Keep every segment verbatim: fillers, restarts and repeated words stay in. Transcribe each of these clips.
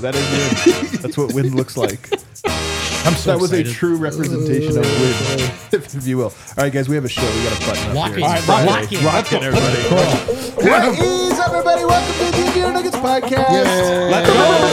That is wind. That's what wind looks like. I'm so that was excited. a true representation of wind, if, if you will. All right, guys, we have a show. We got to button up Lock here. in. All right, Lock in. Rock it, everybody. What is up, everybody? Welcome to the D N V R Nuggets podcast. Yay. Let's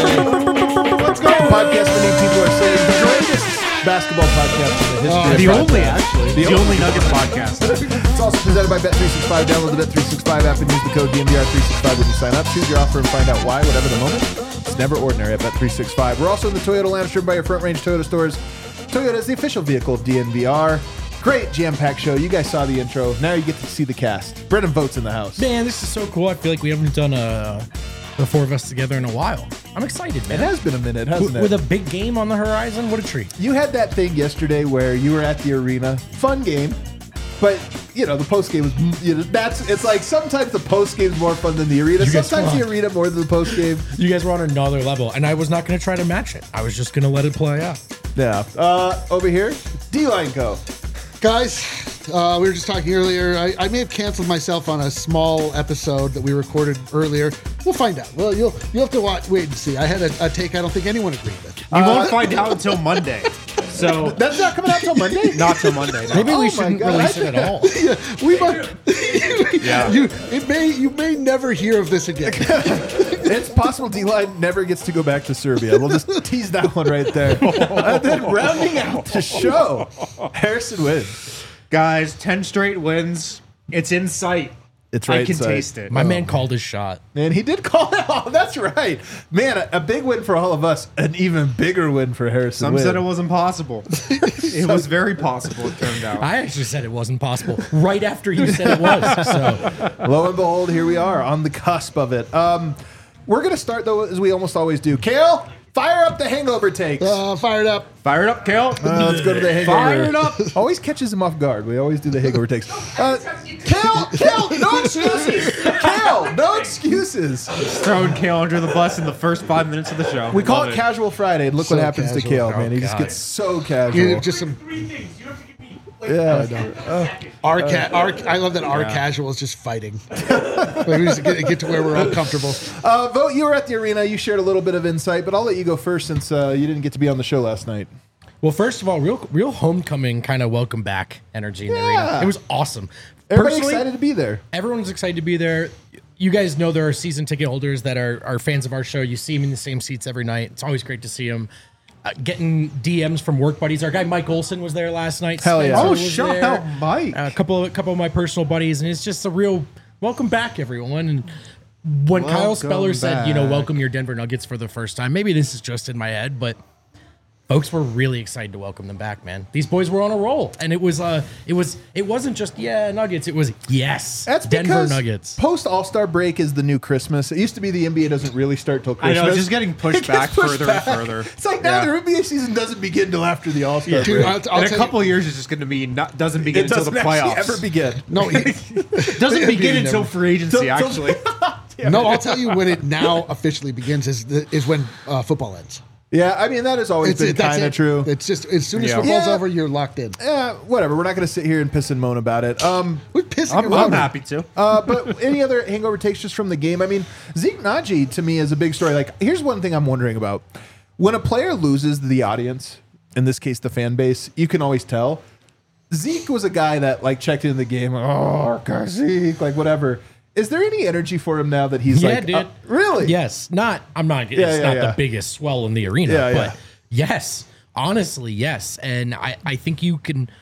go. Let's go. Podcast many people are saying the greatest basketball podcast in the history Uh, of the podcasts. only, actually. The The, only. only Nuggets podcast. It's also presented by Bet three sixty-five. Download the Bet three sixty-five app and use the code D N V R three sixty-five when you sign up. Choose your offer and find out why, whatever the moment. It's never ordinary at Bet three sixty-five. We're also in the Toyota Lounge driven by your Front Range Toyota stores. Toyota is the official vehicle of D N V R. Great jam-packed show. You guys saw the intro. Now you get to see the cast. Brendan Votes in the house. Man, this is so cool. I feel like we haven't done a, the four of us together in a while. I'm excited, It man. has been a minute, hasn't with, it? with a big game on the horizon, what a treat. You had that thing yesterday where you were at the arena. Fun game. But, you know, the post game was, you know, that's, it's like sometimes the post game is more fun than the arena. You guys Sometimes the rock. arena more than the post game. You guys were on another level, and I was not going to try to match it. I was just going to let it play out. Yeah. Uh, over here, D-Line Co. Guys, uh, we were just talking earlier. I, I may have canceled myself on a small episode that we recorded earlier. We'll find out. Well, you'll you'll have to watch, wait and see. I had a, a take I don't think anyone agreed with. You won't find out until Monday. So That's not coming out till Monday? not till Monday. No. Maybe Oh we my shouldn't God. release it at all. Yeah, we might. Yeah. You it may you may never hear of this again. It's possible D-Line never gets to go back to Serbia. We'll just tease that one right there. And then rounding out the show, Harrison wins. Guys, ten straight wins. It's in sight. It's right I can in sight. taste it. My man called his shot. And he did call it off. That's right. Man, a, a big win for all of us. An even bigger win for Harrison Some Wynn. said it wasn't possible. It was very possible, it turned out. I actually said it wasn't possible right after you said it was. So Lo and behold, here we are on the cusp of it. Um, we're going to start, though, as we almost always do. Kale, fire up the hangover takes. Uh, fired up. Fire it up, Kale. Uh, let's go to the hangover. Fire it up. Always catches him off guard. We always do the hangover takes. Uh, Kale, Kale, no excuses. Kale, no excuses. Throwing Kale under the bus in the first five minutes of the show. We call Love it casual Friday, and look So what happens to casual. Kale, man. He Oh, just God. gets so You casual. know, just some Three things. You have to give me. Like, Yeah. our ca- our. I love that our casual is just fighting. Like, we just get, get to where we're all comfortable. Uh, Vote, you were at the arena. You shared a little bit of insight, but I'll let you go first since uh, you didn't get to be on the show last night. Well, first of all, real real homecoming kind of welcome back energy in the Yeah. arena. It was awesome. Everybody Personally, excited to be there. everyone's excited to be there. You guys know there are season ticket holders that are, are fans of our show. You see them in the same seats every night. It's always great to see them. Uh, getting D Ms from work buddies. Our guy Mike Olson was there last night. Hell yeah. Spencer Oh, was shout there. out Mike. Uh, a couple, a couple of my personal buddies, and it's just a real welcome back, everyone. And when Kyle Welcome Speller said, you know, back. welcome your Denver Nuggets for the first time, maybe this is just in my head, but folks were really excited to welcome them back, man. These boys were on a roll, and it was uh, it was it wasn't just yeah Nuggets. It was yes That's Denver because Nuggets. post All Star break is the new Christmas. It used to be the N B A doesn't really start till I Christmas. know, it's just getting pushed It gets back pushed further back. and further. It's like now Yeah. the N B A season doesn't begin till after the All Star Dude, break. I'll, I'll In a tell you- couple of years, it's just going to be not doesn't begin It until the doesn't actually playoffs. ever begin. No, he- doesn't begin Never. until free agency. Till- till- Actually, no. I'll tell you when it now officially begins is the, is when uh, football ends. Yeah, I mean that has always been that's kind of it. true. It's just as soon as Yeah. football's Yeah. over, you're locked in. Yeah, whatever. We're not going to sit here and piss and moan about it. Um, We're pissing I'm, around. I'm happy to. uh, but any other hangover takes just from the game? I mean, Zeke Naji to me is a big story. Like, here's one thing I'm wondering about: when a player loses the audience, in this case the fan base, you can always tell. Zeke was a guy that like checked in the game. Oh, our guy Zeke, like whatever. Is there any energy for him now that he's Yeah, like, dude. uh, really? Yes, not. I'm not. Yeah, it's yeah, not yeah. the biggest swell in the arena, Yeah, but yeah. yes, honestly, yes. And I, I think you can.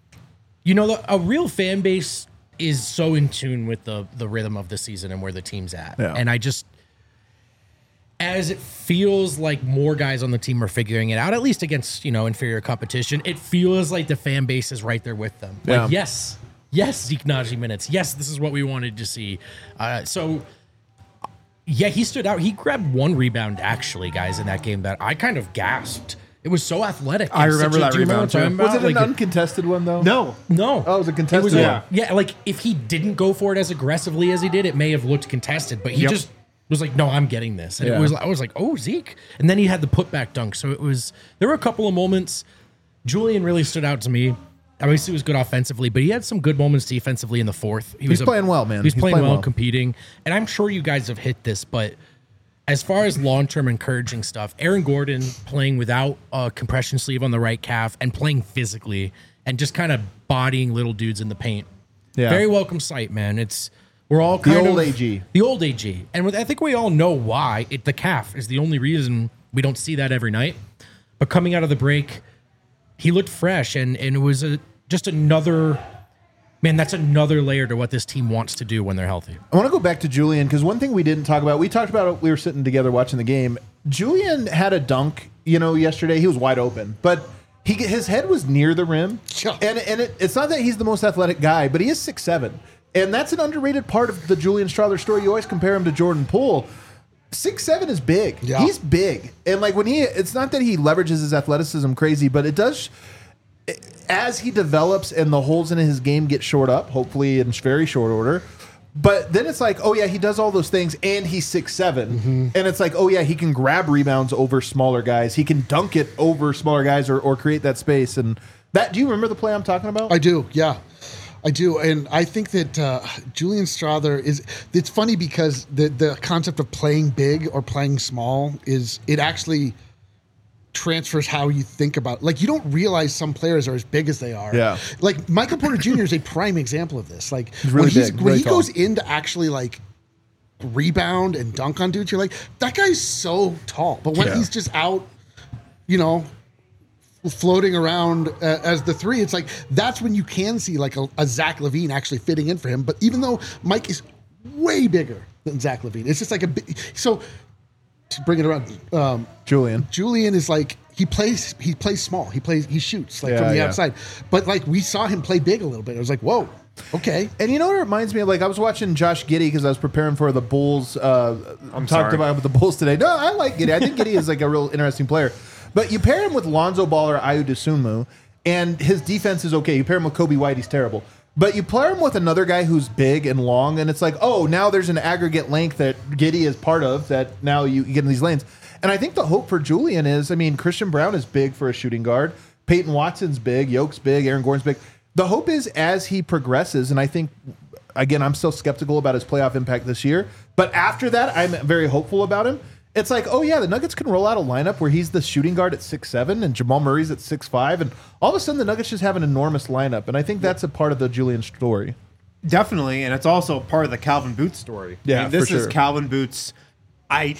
You know, the, a real fan base is so in tune with the the rhythm of the season and where the team's at. Yeah. And I just, as it feels like more guys on the team are figuring it out, at least against you know inferior competition, it feels like the fan base is right there with them. Yeah. Like yes, yes, Zeke Naji minutes. Yes, this is what we wanted to see. Uh, so. Yeah, he stood out. He grabbed one rebound, actually, guys, in that game that I kind of gasped. It was so athletic. I and remember such a- that do you remember rebound, what I'm too. talking Was it about? an Like, uncontested one though? No, no. Oh, it was a contested was one. a- yeah, like if he didn't go for it as aggressively as he did, it may have looked contested, but he Yep. just was like, no, I'm getting this. And Yeah. it was, I was like, oh, Zeke. And then he had the putback dunk. So it was, there were a couple of moments. Julian really stood out to me. Obviously, he was good offensively, but he had some good moments defensively in the fourth. He He's was playing well, man. He was He's playing, playing well, well. competing. And I'm sure you guys have hit this, but as far as long-term encouraging stuff, Aaron Gordon playing without a compression sleeve on the right calf and playing physically and just kind of bodying little dudes in the paint. Yeah. Very welcome sight, man. It's we're all The kind old of A G. the old A G, and with, I think we all know why. It, the calf is the only reason we don't see that every night. But coming out of the break, he looked fresh, and and it was a just another. Man, that's another layer to what this team wants to do when they're healthy. I want to go back to Julian because one thing we didn't talk about, we talked about it, we were sitting together watching the game. Julian had a dunk, you know, yesterday. He was wide open, but he his head was near the rim. Yeah. And and it, it's not that he's the most athletic guy, but he is six seven. And that's an underrated part of the Julian Strawther story. You always compare him to Jordan Poole. six seven is big. Yeah. He's big. And like when he, it's not that he leverages his athleticism crazy, but it does, as he develops and the holes in his game get shored up, hopefully in very short order. But then it's like, oh yeah, he does all those things and he's six seven. Mm-hmm. And it's like, oh yeah, he can grab rebounds over smaller guys. He can dunk it over smaller guys or, or create that space. And that, do you remember the play I'm talking about? I do, yeah. I do, and I think that uh, Julian Strawther is. It's funny because the the concept of playing big or playing small is it actually transfers how you think about. Like you don't realize some players are as big as they are. Yeah. Like Michael Porter Junior is a prime example of this. Like He's really when, he's, big, when really he tall. goes in to actually like rebound and dunk on dudes, you're like, that guy's so tall. But when Yeah. he's just out, you know, floating around uh, as the three, it's like that's when you can see like a, a Zach LaVine actually fitting in for him. But even though Mike is way bigger than Zach LaVine, it's just like a big. So to bring it around, um, Julian. Julian is like he plays. He plays small. He plays. He shoots like Yeah, from the yeah. outside. But like we saw him play big a little bit. I was like, whoa, okay. And you know what it reminds me of? Like I was watching Josh Giddey because I was preparing for the Bulls. Uh, I'm talked sorry. about the Bulls today. No, I like Giddey. I think Giddey is like a real interesting player. But you pair him with Lonzo Ball or Ayo Dosunmu, and his defense is okay. You pair him with Kobe White, he's terrible. But you pair him with another guy who's big and long, and it's like, oh, now there's an aggregate length that Giddey is part of that now you get in these lanes. And I think the hope for Julian is, I mean, Christian Brown is big for a shooting guard. Peyton Watson's big. Yoke's big. Aaron Gordon's big. The hope is as he progresses, and I think, again, I'm still skeptical about his playoff impact this year. But after that, I'm very hopeful about him. It's like, oh yeah, the Nuggets can roll out a lineup where he's the shooting guard at six seven and Jamal Murray's at six five, and all of a sudden the Nuggets just have an enormous lineup. And I think that's a part of the Julian story. Definitely, and it's also part of the Calvin Boots story. Yeah, I mean, this for is sure. Calvin Boots' I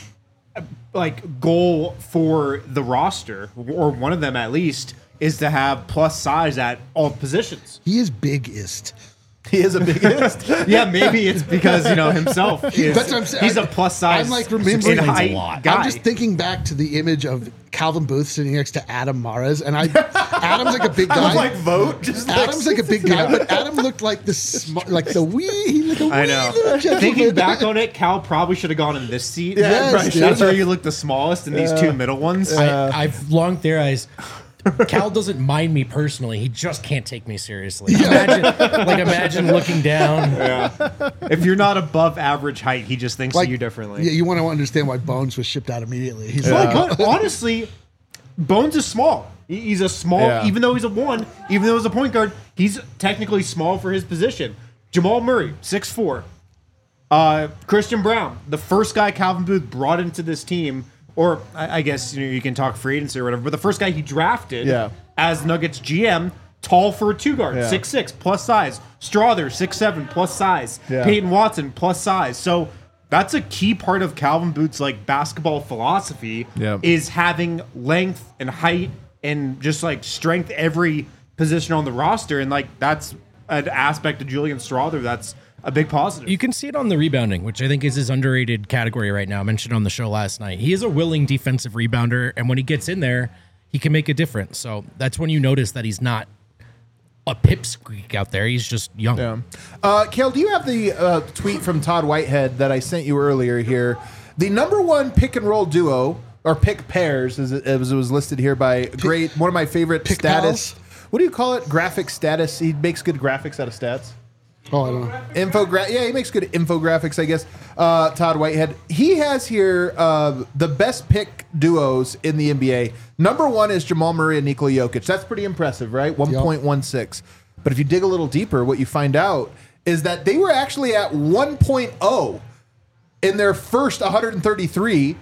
like goal for the roster, or one of them at least, is to have plus size at all positions. He is biggest. He is a biggest. Yeah, maybe it's because you know himself. Is, That's what I'm saying. He's a plus size. I'm like remembering in a height lot. guy. I'm just thinking back to the image of Calvin Booth sitting next to Adam Mares, and I Adam's like a big I guy. was like, vote. Just Adam's like a big guy, but Adam looked like the sm- like the wee. He looked like a I wee know. little gentleman. Thinking back on it, Cal probably should have gone in this seat. Yeah, Yes, right. dude. That's where you look the smallest in these two middle ones. I, I've long theorized. Cal doesn't mind me personally. He just can't take me seriously. Imagine, like, imagine looking down. If you're not above average height, he just thinks Like, of you differently. Yeah, you want to understand why Bones was shipped out immediately. He's Well, like, but honestly, Bones is small. He- He's a small, Yeah. even though he's a one, even though he's a point guard, he's technically small for his position. Jamal Murray, six four. Uh, Christian Brown, the first guy Calvin Booth brought into this team, or I, I guess you know you can talk free agency or whatever, but the first guy he drafted Yeah. as Nuggets G M, tall for a two guard, Yeah. six six plus size. Strawther, six seven plus size. Yeah. Peyton Watson plus size. So that's a key part of Calvin Booth's like basketball philosophy Yeah. is having length and height and just like strength every position on the roster, and like that's an aspect of Julian Strawther that's a big positive. You can see it on the rebounding, which I think is his underrated category right now. I mentioned on the show last night. He is a willing defensive rebounder, and when he gets in there, he can make a difference. So that's when you notice that he's not a pipsqueak out there. He's just young. Yeah. Uh, Kale, do you have the uh, tweet from Todd Whitehead that I sent you earlier here? The number one pick and roll duo, or pick pairs, as it, as it was listed here by great, one of my favorite Pick status. pals? What do you call it? Graphic status. He makes good graphics out of stats. oh, I don't know. Infogra- yeah, he makes good infographics, I guess. Uh, Todd Whitehead. He has here uh, the best pick duos in the N B A. Number one is Jamal Murray and Nikola Jokic. That's pretty impressive, right? one point one six. But if you dig a little deeper, what you find out is that they were actually at one point oh in their first one hundred thirty-three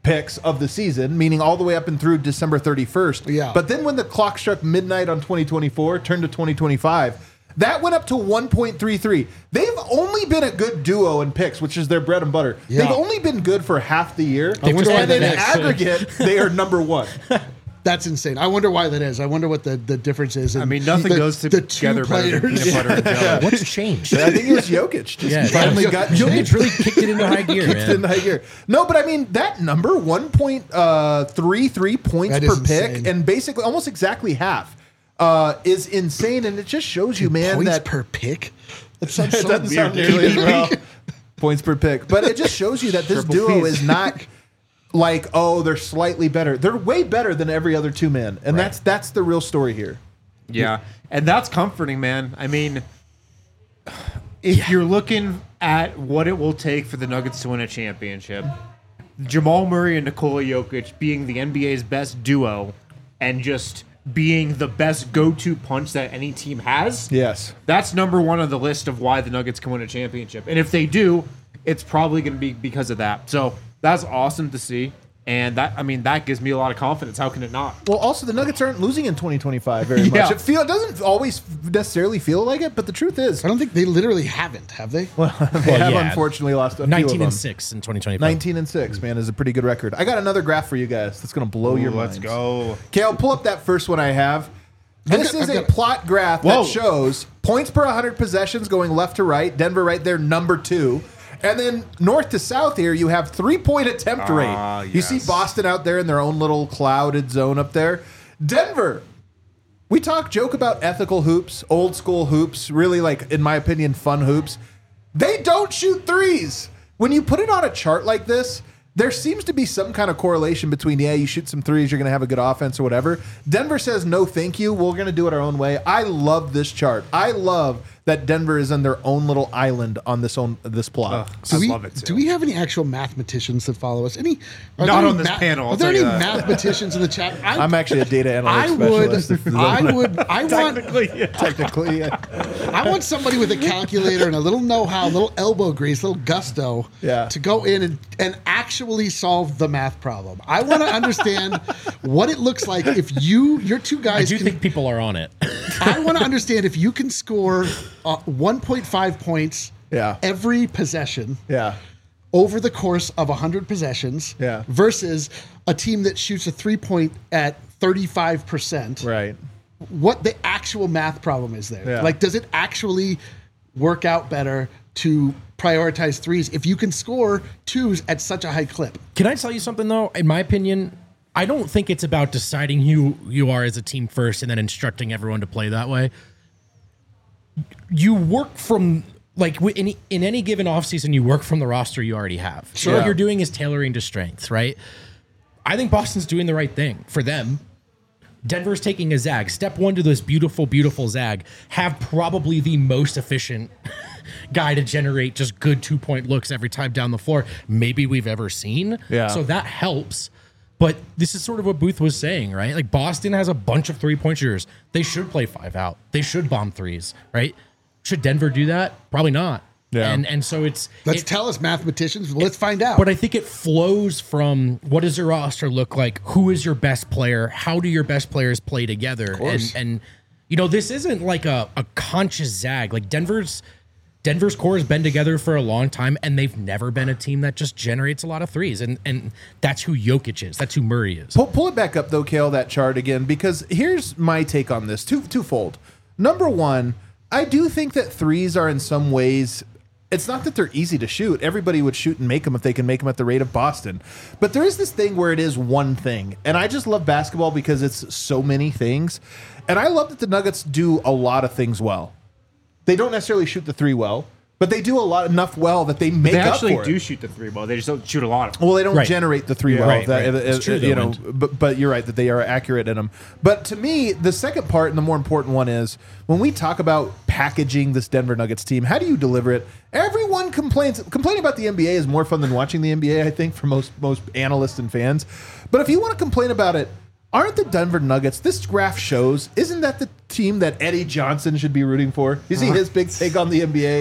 picks of the season, meaning all the way up and through December thirty-first. Yeah. But then when the clock struck midnight on twenty twenty-four, turned to twenty twenty-five, that went up to one point three three. They've only been a good duo in picks, which is their bread and butter. Yeah. They've only been good for half the year. I wonder why And in that is. aggregate, they are number one. That's insane. I wonder why that is. I wonder what the, the difference is. in I mean, nothing the, goes the together two better than players. peanut butter and jelly. What's changed? I think it was Jokic. Just Yeah, finally yeah. got Jokic changed. really kicked it into high gear, Kicked man. it in high gear. No, but I mean that number one point three three points That per is pick, insane. and basically almost exactly half, uh, is insane, and it just shows you, man, Points that per pick? That sounds it so doesn't sound weird. nearly as well. Points per pick, but it just shows you that this Triple duo Ps. is not like, oh, they're slightly better. They're way better than every other two men, and that's that's the real story here. Yeah, and that's comforting, man. I mean, if you're looking at what it will take for the Nuggets to win a championship, Jamal Murray and Nikola Jokic being the N B A's best duo and just being the best go-to punch that any team has, Yes. that's number one on the list of why the Nuggets can win a championship. And if they do, it's probably going to be because of that. So that's awesome to see. And that, I mean, that gives me a lot of confidence. How can it not? Well, also the Nuggets aren't losing in twenty twenty-five very much. Yeah. It feel it doesn't always necessarily feel like it, but the truth is, I don't think they literally haven't, have they? they Well, have yeah. unfortunately lost a few of nineteen them. and six in twenty twenty-five. nineteen and six, man, is a pretty good record. I got another graph for you guys that's going to blow your minds. Let's go. Okay, I'll pull up that first one I have. This I've got- is I've a got- plot graph Whoa. that shows points per one hundred possessions going left to right. Denver right there, number two. And then north to south here, you have three-point attempt rate. Ah, You see yes. Boston out there in their own little clouded zone up there. Denver, we talk joke about ethical hoops, old school hoops, really like, in my opinion, fun hoops. They don't shoot threes. When you put it on a chart like this, there seems to be some kind of correlation between, yeah, you shoot some threes, you're going to have a good offense or whatever. Denver says, no, thank you. We're going to do it our own way. I love this chart. I love that Denver is on their own little island on this own this plot. Do I we, love it, too. Do we have any actual mathematicians that follow us? Any? Are Not there on any this panel, I'll Are there tell any you that. mathematicians in the chat? I, I'm actually a data I analytics would. specialist. I would. I want. yeah. Technically, yeah. I want somebody with a calculator and a little know-how, a little elbow grease, a little gusto, Yeah. to go in and, and actually solve the math problem. I want to understand what it looks like if you, your two I guys, do can, think people are on it. I want to understand if you can score uh, one point five points Yeah. every possession Yeah. over the course of one hundred possessions Yeah. versus a team that shoots a three-point at thirty-five percent. Right. What the actual math problem is there. Yeah. Like, does it actually work out better to prioritize threes if you can score twos at such a high clip? Can I tell you something though? In my opinion, I don't think it's about deciding who you are as a team first and then instructing everyone to play that way. You work from like wi- in, in any given offseason, you work from the roster you already have. So Sure. what you're doing is tailoring to strengths, right? I think Boston's doing the right thing for them. Denver's taking a zag. Step one to this beautiful, beautiful zag. Have probably the most efficient guy to generate just good two point looks every time down the floor maybe we've ever seen. Yeah. So that helps. But this is sort of what Booth was saying, right? Like Boston has a bunch of three point shooters. They should play five out. They should bomb threes, right? Should Denver do that? Probably not. Yeah. And and so it's Let's it- tell us, mathematicians. Let's find out. but I think it flows from what does your roster look like? Who is your best player? How do your best players play together? And and you know, this isn't like a, a conscious zag. Like Denver's Denver's core has been together for a long time, and they've never been a team that just generates a lot of threes. And and that's who Jokic is. That's who Murray is. Pull, pull it back up though, Kale, that chart again, because here's my take on this. Two twofold. Number one, I do think that threes are in some ways, it's not that they're easy to shoot. Everybody would shoot and make them if they can make them at the rate of Boston. But there is this thing where it is one thing. And I just love basketball because it's so many things. And I love that the Nuggets do a lot of things well. They don't necessarily shoot the three well, but they do a lot enough well that they make They up actually for do it. shoot the three ball. They just don't shoot a lot of them. Well, they don't Right. generate the three well. Right, that, right. uh, It's uh, true, you though, know, and- but but you're right that they are accurate in them. But to me, the second part and the more important one is when we talk about packaging this Denver Nuggets team. How do you deliver it? Everyone complains. Complaining about the N B A is more fun than watching the N B A. I think for most most analysts and fans. But if you want to complain about it, aren't the Denver Nuggets? This graph shows. Isn't that the team that Eddie Johnson should be rooting for? You see his big take on the N B A and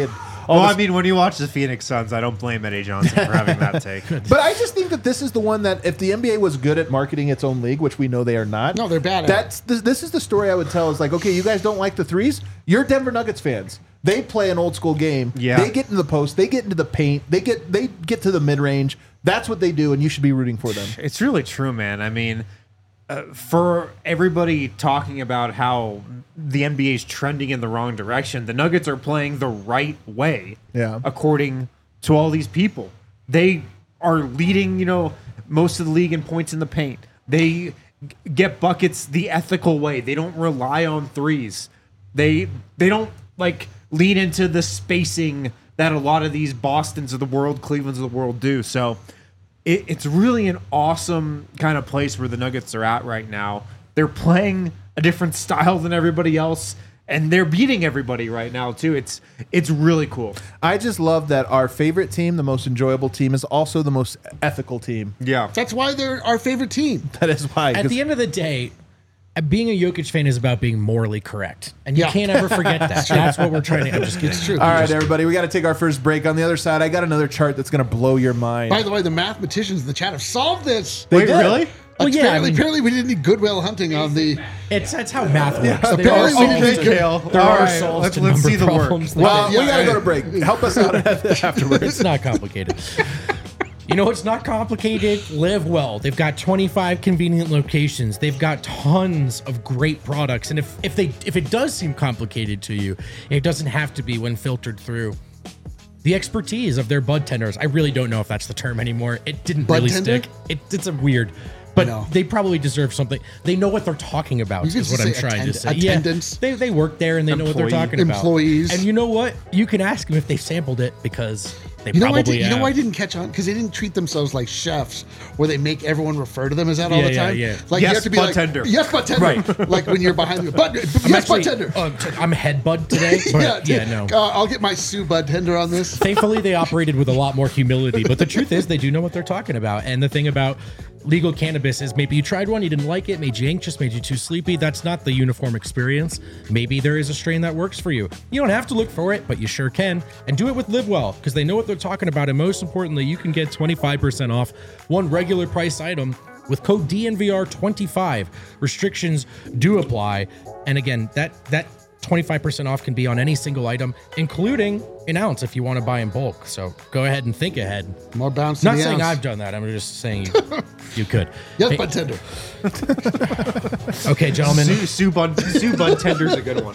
Well, I mean, when you watch the Phoenix Suns, I don't blame Eddie Johnson for having that take. But I just think that this is the one that if the N B A was good at marketing its own league, which we know they are not. No, they're bad at That's the, this is the story I would tell. Is like, okay, you guys don't like the threes. You're Denver Nuggets fans. They play an old school game. Yeah. They get into the post. They get into the paint. They get they get to the mid range. That's what they do, and you should be rooting for them. It's really true, man. I mean, uh, for everybody talking about how the N B A is trending in the wrong direction, the Nuggets are playing the right way. Yeah. According to all these people, they are leading, you know, most of the league in points in the paint. They g- get buckets the ethical way. They don't rely on threes. They they don't like lean into the spacing that a lot of these Bostons of the world, Clevelands of the world do. So it, it's really an awesome kind of place where the Nuggets are at right now. They're playing a different style than everybody else, and they're beating everybody right now too. It's it's really cool. I just love that our favorite team, the most enjoyable team, is also the most ethical team. Yeah. That's why they're our favorite team. That is why. At 'cause- the end of the day, uh, being a Jokic fan is about being morally correct, and you Yeah. can't ever forget that. That's what we're trying to. I'm just kidding. It's true. all right, everybody, we got to take our first break. On the other side, I got another chart that's going to blow your mind. By the way, the mathematicians in the chat have solved this. They Wait, did. really? Well, yeah, apparently, I mean- apparently we didn't need Goodwill Hunting on the. It's that's how math works. There apparently are we solves didn't to- get- Kale. There All are right, solves let's- to let's number see the work. problems. Well, Yeah, we got to I- go to break. Help us out afterwards. It's not complicated. You know what's not complicated? Live well. They've got twenty-five convenient locations. They've got tons of great products. And if, if they if it does seem complicated to you, it doesn't have to be when filtered through the expertise of their bud tenders. I really don't know if that's the term anymore. It didn't Bud really tender? stick. It, it's a weird, but No. they probably deserve something. They know what they're talking about. You could Is what just I'm say trying to attend- say. attendance. Yeah, they they work there and they know what they're Employee- talking about. employees. And you know what? You can ask them if they sampled it because they You know, why I probably did, you know have. why I didn't catch on? Because they didn't treat themselves like chefs, where they make everyone refer to them as that all Yeah, the yeah, time. yeah. Like Yes, you have to be bud like, tender. yes, bud tender. Right. Like when you're behind the bud, I'm yes, actually, bud tender. uh, I'm head bud today, but yeah, t- no. Uh, I'll get my Sue bud tender on this. Thankfully, they operated with a lot more humility. But the truth is, they do know what they're talking about. And the thing about legal cannabis is maybe you tried one, you didn't like it, made you anxious, made you too sleepy. That's not the uniform experience. Maybe there is a strain that works for you. You don't have to look for it, but you sure can. And do it with Live Well, because they know what they're talking about. And most importantly, you can get twenty-five percent off one regular price item with code D N V R twenty-five. Restrictions do apply. And again, that that twenty-five percent off can be on any single item, including an ounce if you want to buy in bulk. So go ahead and think ahead. More bounce. Not to the saying ounce. I've done that. I'm just saying you, you could. Yes, Hey, bud tender. okay, gentlemen. Sue, Sue Bud Sue Bud Tender's a good one.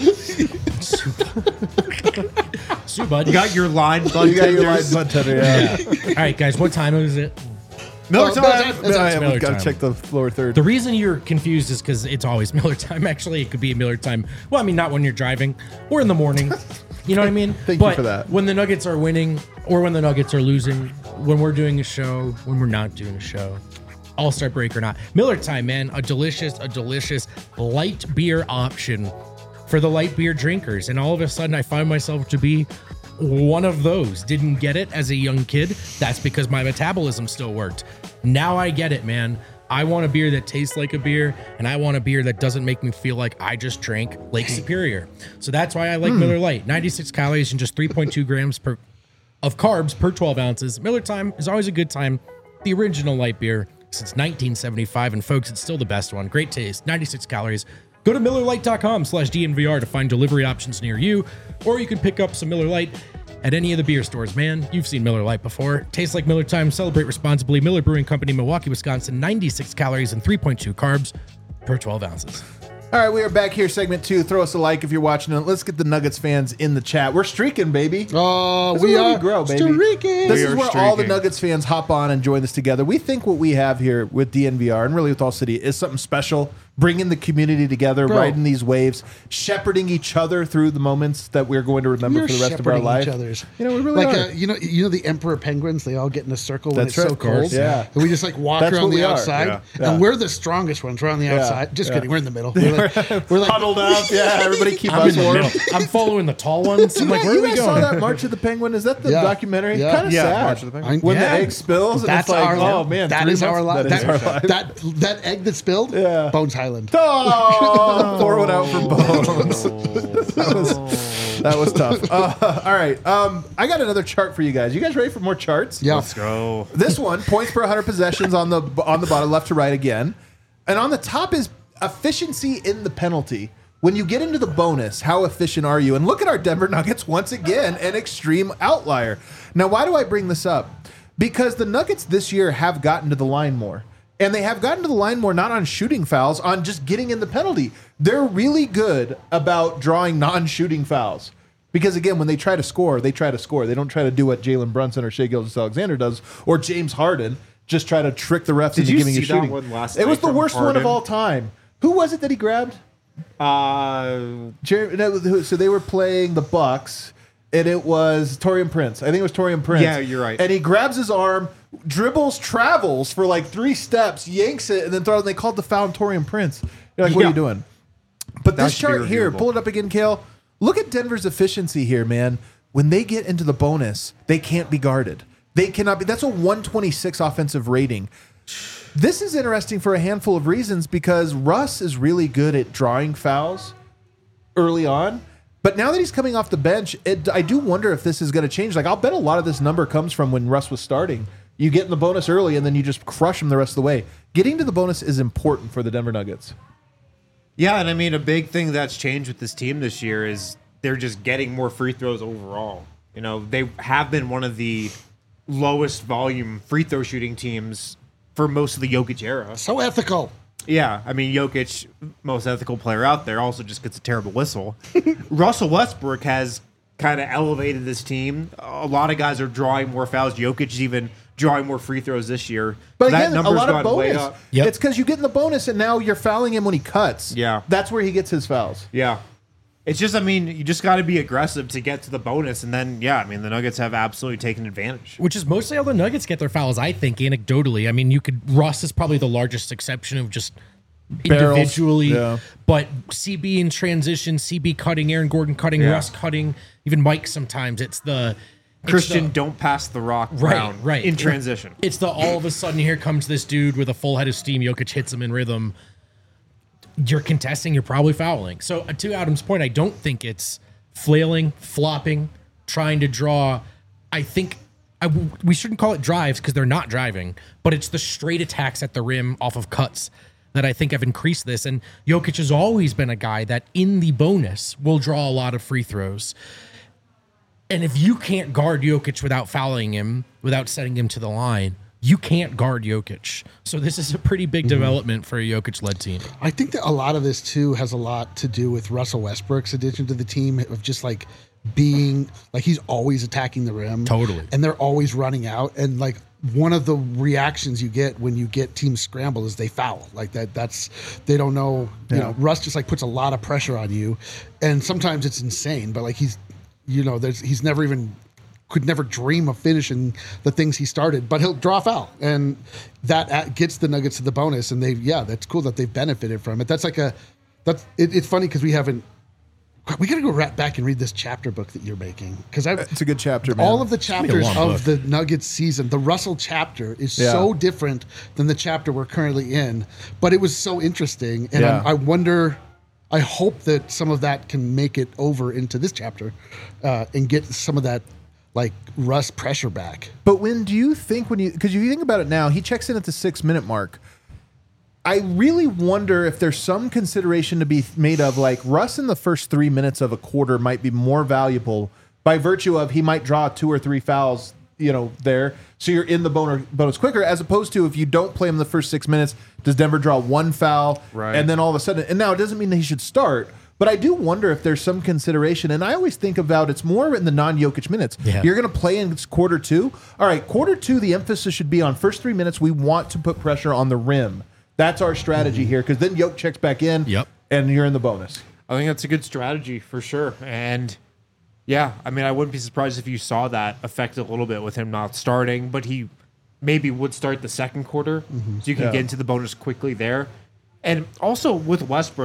Sue Bud. You got your line, Bud You got your live Tenders. bud tender, yeah. All right, guys. What time is it? Miller Oh, time. Miller time. No, yeah, Miller we got to time. check the floor third. The reason you're confused is because it's always Miller time. Actually, it could be Miller time. Well, I mean, not when you're driving or in the morning. You know what I mean? Thank you but for that. When the Nuggets are winning or when the Nuggets are losing, when we're doing a show, when we're not doing a show, All-Star break or not, Miller time, man, a delicious, a delicious light beer option for the light beer drinkers. And all of a sudden, I find myself to be one of those. Didn't get it as a young kid. That's because my metabolism still worked. Now I get it, man. I want a beer that tastes like a beer, and I want a beer that doesn't make me feel like I just drank Lake Superior. So that's why I like Miller Lite. ninety-six calories and just three point two grams per of carbs per twelve ounces. Miller Time is always a good time. The original light beer since nineteen seventy-five, and folks, it's still the best one. Great taste, ninety-six calories. Go to Miller Lite dot com slash D N V R to find delivery options near you, or you can pick up some Miller Lite at any of the beer stores. Man, you've seen Miller Lite before. Tastes like Miller Time. Celebrate responsibly. Miller Brewing Company, Milwaukee, Wisconsin. ninety-six calories and three point two carbs per twelve ounces. All right, we are back here, segment two. Throw us a like if you're watching it. Let's get the Nuggets fans in the chat. We're streaking, baby. Oh, This we is where are we grow, baby. streaking. This We is are where all the streaking. Nuggets fans hop on and join us together. We think what we have here with D N V R and really with All City is something special. Bringing the community together, Bro. riding these waves, shepherding each other through the moments that we're going to remember We're for the rest of our shepherding life. each other's. You know, we really like are. uh, you know, you know the emperor penguins. They all get in a circle when That's it's right, so of course, cold. yeah. and we just like walk That's around what we the are. outside, Yeah, yeah. and we're the strongest ones. We're on the outside. Just yeah. kidding. We're in the middle. We're like We're like, Huddled up. Yeah, everybody keep I'm us in the warm. middle. I'm following the tall ones. I'm like, Yeah, where you are we guys saw going? that March of the Penguin? Is that the Yeah. documentary? Yeah. Kind of Yeah, sad. March of the Penguin. When Yeah. the egg spills, and That's it's like, our oh life. man, That three is our months? life. That is our That, life. that that egg that spilled. Yeah. Bones Highland. Oh, pour one out for Bones. that, was, that was tough. Uh, all right, um, I got another chart for you guys. You guys ready for more charts? Yeah. Let's go. This one, points per one hundred possessions on the on the bottom, left to right again, and on the top is efficiency in the penalty. When you get into the bonus, how efficient are you? And look at our Denver Nuggets once again, an extreme outlier. Now, why do I bring this up? Because the Nuggets this year have gotten to the line more. And they have gotten to the line more not on shooting fouls, on just getting in the penalty. They're really good about drawing non-shooting fouls. Because again, when they try to score, they try to score. They don't try to do what Jalen Brunson or Shai Gilgeous-Alexander does, or James Harden, just try to trick the refs Did into you giving see you that shooting. one last It was night the from worst one of Harden? all time. Who was it that he grabbed? Uh, Jer- no, who- so they were playing the Bucks, and it was Torian Prince. I think it was Torian Prince. Yeah, you're right. And he grabs his arm, dribbles, travels for like three steps, yanks it, and then throws. And they called the foul on Torian Prince. You're like, what are Yeah. you doing? But That this should be chart here, reviewable. pull it up again, Kale. Look at Denver's efficiency here, man. When they get into the bonus, they can't be guarded. They cannot be. That's a one twenty-six offensive rating. This is interesting for a handful of reasons because Russ is really good at drawing fouls early on. But now that he's coming off the bench, it, I do wonder if this is going to change. Like, I'll bet a lot of this number comes from when Russ was starting. You get in the bonus early, and then you just crush them the rest of the way. Getting to the bonus is important for the Denver Nuggets. yeah, and I mean, a big thing that's changed with this team this year is they're just getting more free throws overall. You know, they have been one of the lowest volume free throw shooting teams for most of the Jokic era. So ethical. Yeah, I mean, Jokic, most ethical player out there, also just gets a terrible whistle. Russell Westbrook has kind of elevated this team. A lot of guys are drawing more fouls. Jokic is even drawing more free throws this year. But that again, a number's lot of gone way bonus. up. Yep. It's because you get in the bonus, and now you're fouling him when he cuts. Yeah. That's where he gets his fouls. Yeah. It's just, I mean, you just got to be aggressive to get to the bonus. And then, yeah, I mean, the Nuggets have absolutely taken advantage. Which is mostly how the Nuggets get their fouls, I think, anecdotally. I mean, you could Russ is probably the largest exception of just Barrels, individually, yeah. but C B in transition, C B cutting, Aaron Gordon cutting, Yeah. Russ cutting, even Mike sometimes. It's the it's Christian, the- don't pass the rock right, Brown right in transition. It's the all of a sudden here comes this dude with a full head of steam. Jokic hits him in rhythm. You're contesting, you're probably fouling. So uh, to Adam's point, I don't think it's flailing, flopping, trying to draw. I think I w we shouldn't call it drives because they're not driving, but it's the straight attacks at the rim off of cuts that I think have increased this. And Jokic has always been a guy that in the bonus will draw a lot of free throws. And if you can't guard Jokic without fouling him, without setting him to the line, you can't guard Jokic. So this is a pretty big development for a Jokic-led team. I think that a lot of this too has a lot to do with Russell Westbrook's addition to the team of just like being like he's always attacking the rim. Totally. And they're always running out. And like one of the reactions you get when you get teams scramble is they foul. Like that that's they don't know, you know, Russ just like puts a lot of pressure on you. And sometimes it's insane, but like he's you know, there's he's never even could never dream of finishing the things he started, but he'll draw a foul, and that at- gets the Nuggets to the bonus. And they, yeah, that's cool that they've benefited from it. That's like a, that's it, it's funny because we haven't. We got to go right back and read this chapter book that you're making because I. It's a good chapter, man. All of the chapters long of book. the Nuggets season, the Russell chapter is Yeah. so different than the chapter we're currently in, but it was so interesting, and Yeah. I, I wonder. I hope that some of that can make it over into this chapter, uh, and get some of that like Russ pressure back. But when do you think when you because if you think about it now, he checks in at the six minute mark. I really wonder if there's some consideration to be made of like Russ in the first three minutes of a quarter might be more valuable by virtue of he might draw two or three fouls, you know, there. So you're in the bonus, bonus quicker, as opposed to if you don't play him the first six minutes, does Denver draw one foul? Right. And then all of a sudden, and now it doesn't mean that he should start, but I do wonder if there's some consideration. And I always think about it's more in the non-Jokic minutes. Yeah. You're going to play in quarter two. All right, quarter two, the emphasis should be on first three minutes. We want to put pressure on the rim. That's our strategy here because then Jokic checks back in Yep. and you're in the bonus. I think that's a good strategy for sure. And yeah, I mean, I wouldn't be surprised if you saw that affect a little bit with him not starting, but he maybe would start the second quarter so you can Yeah. get into the bonus quickly there. And also with Westbrook,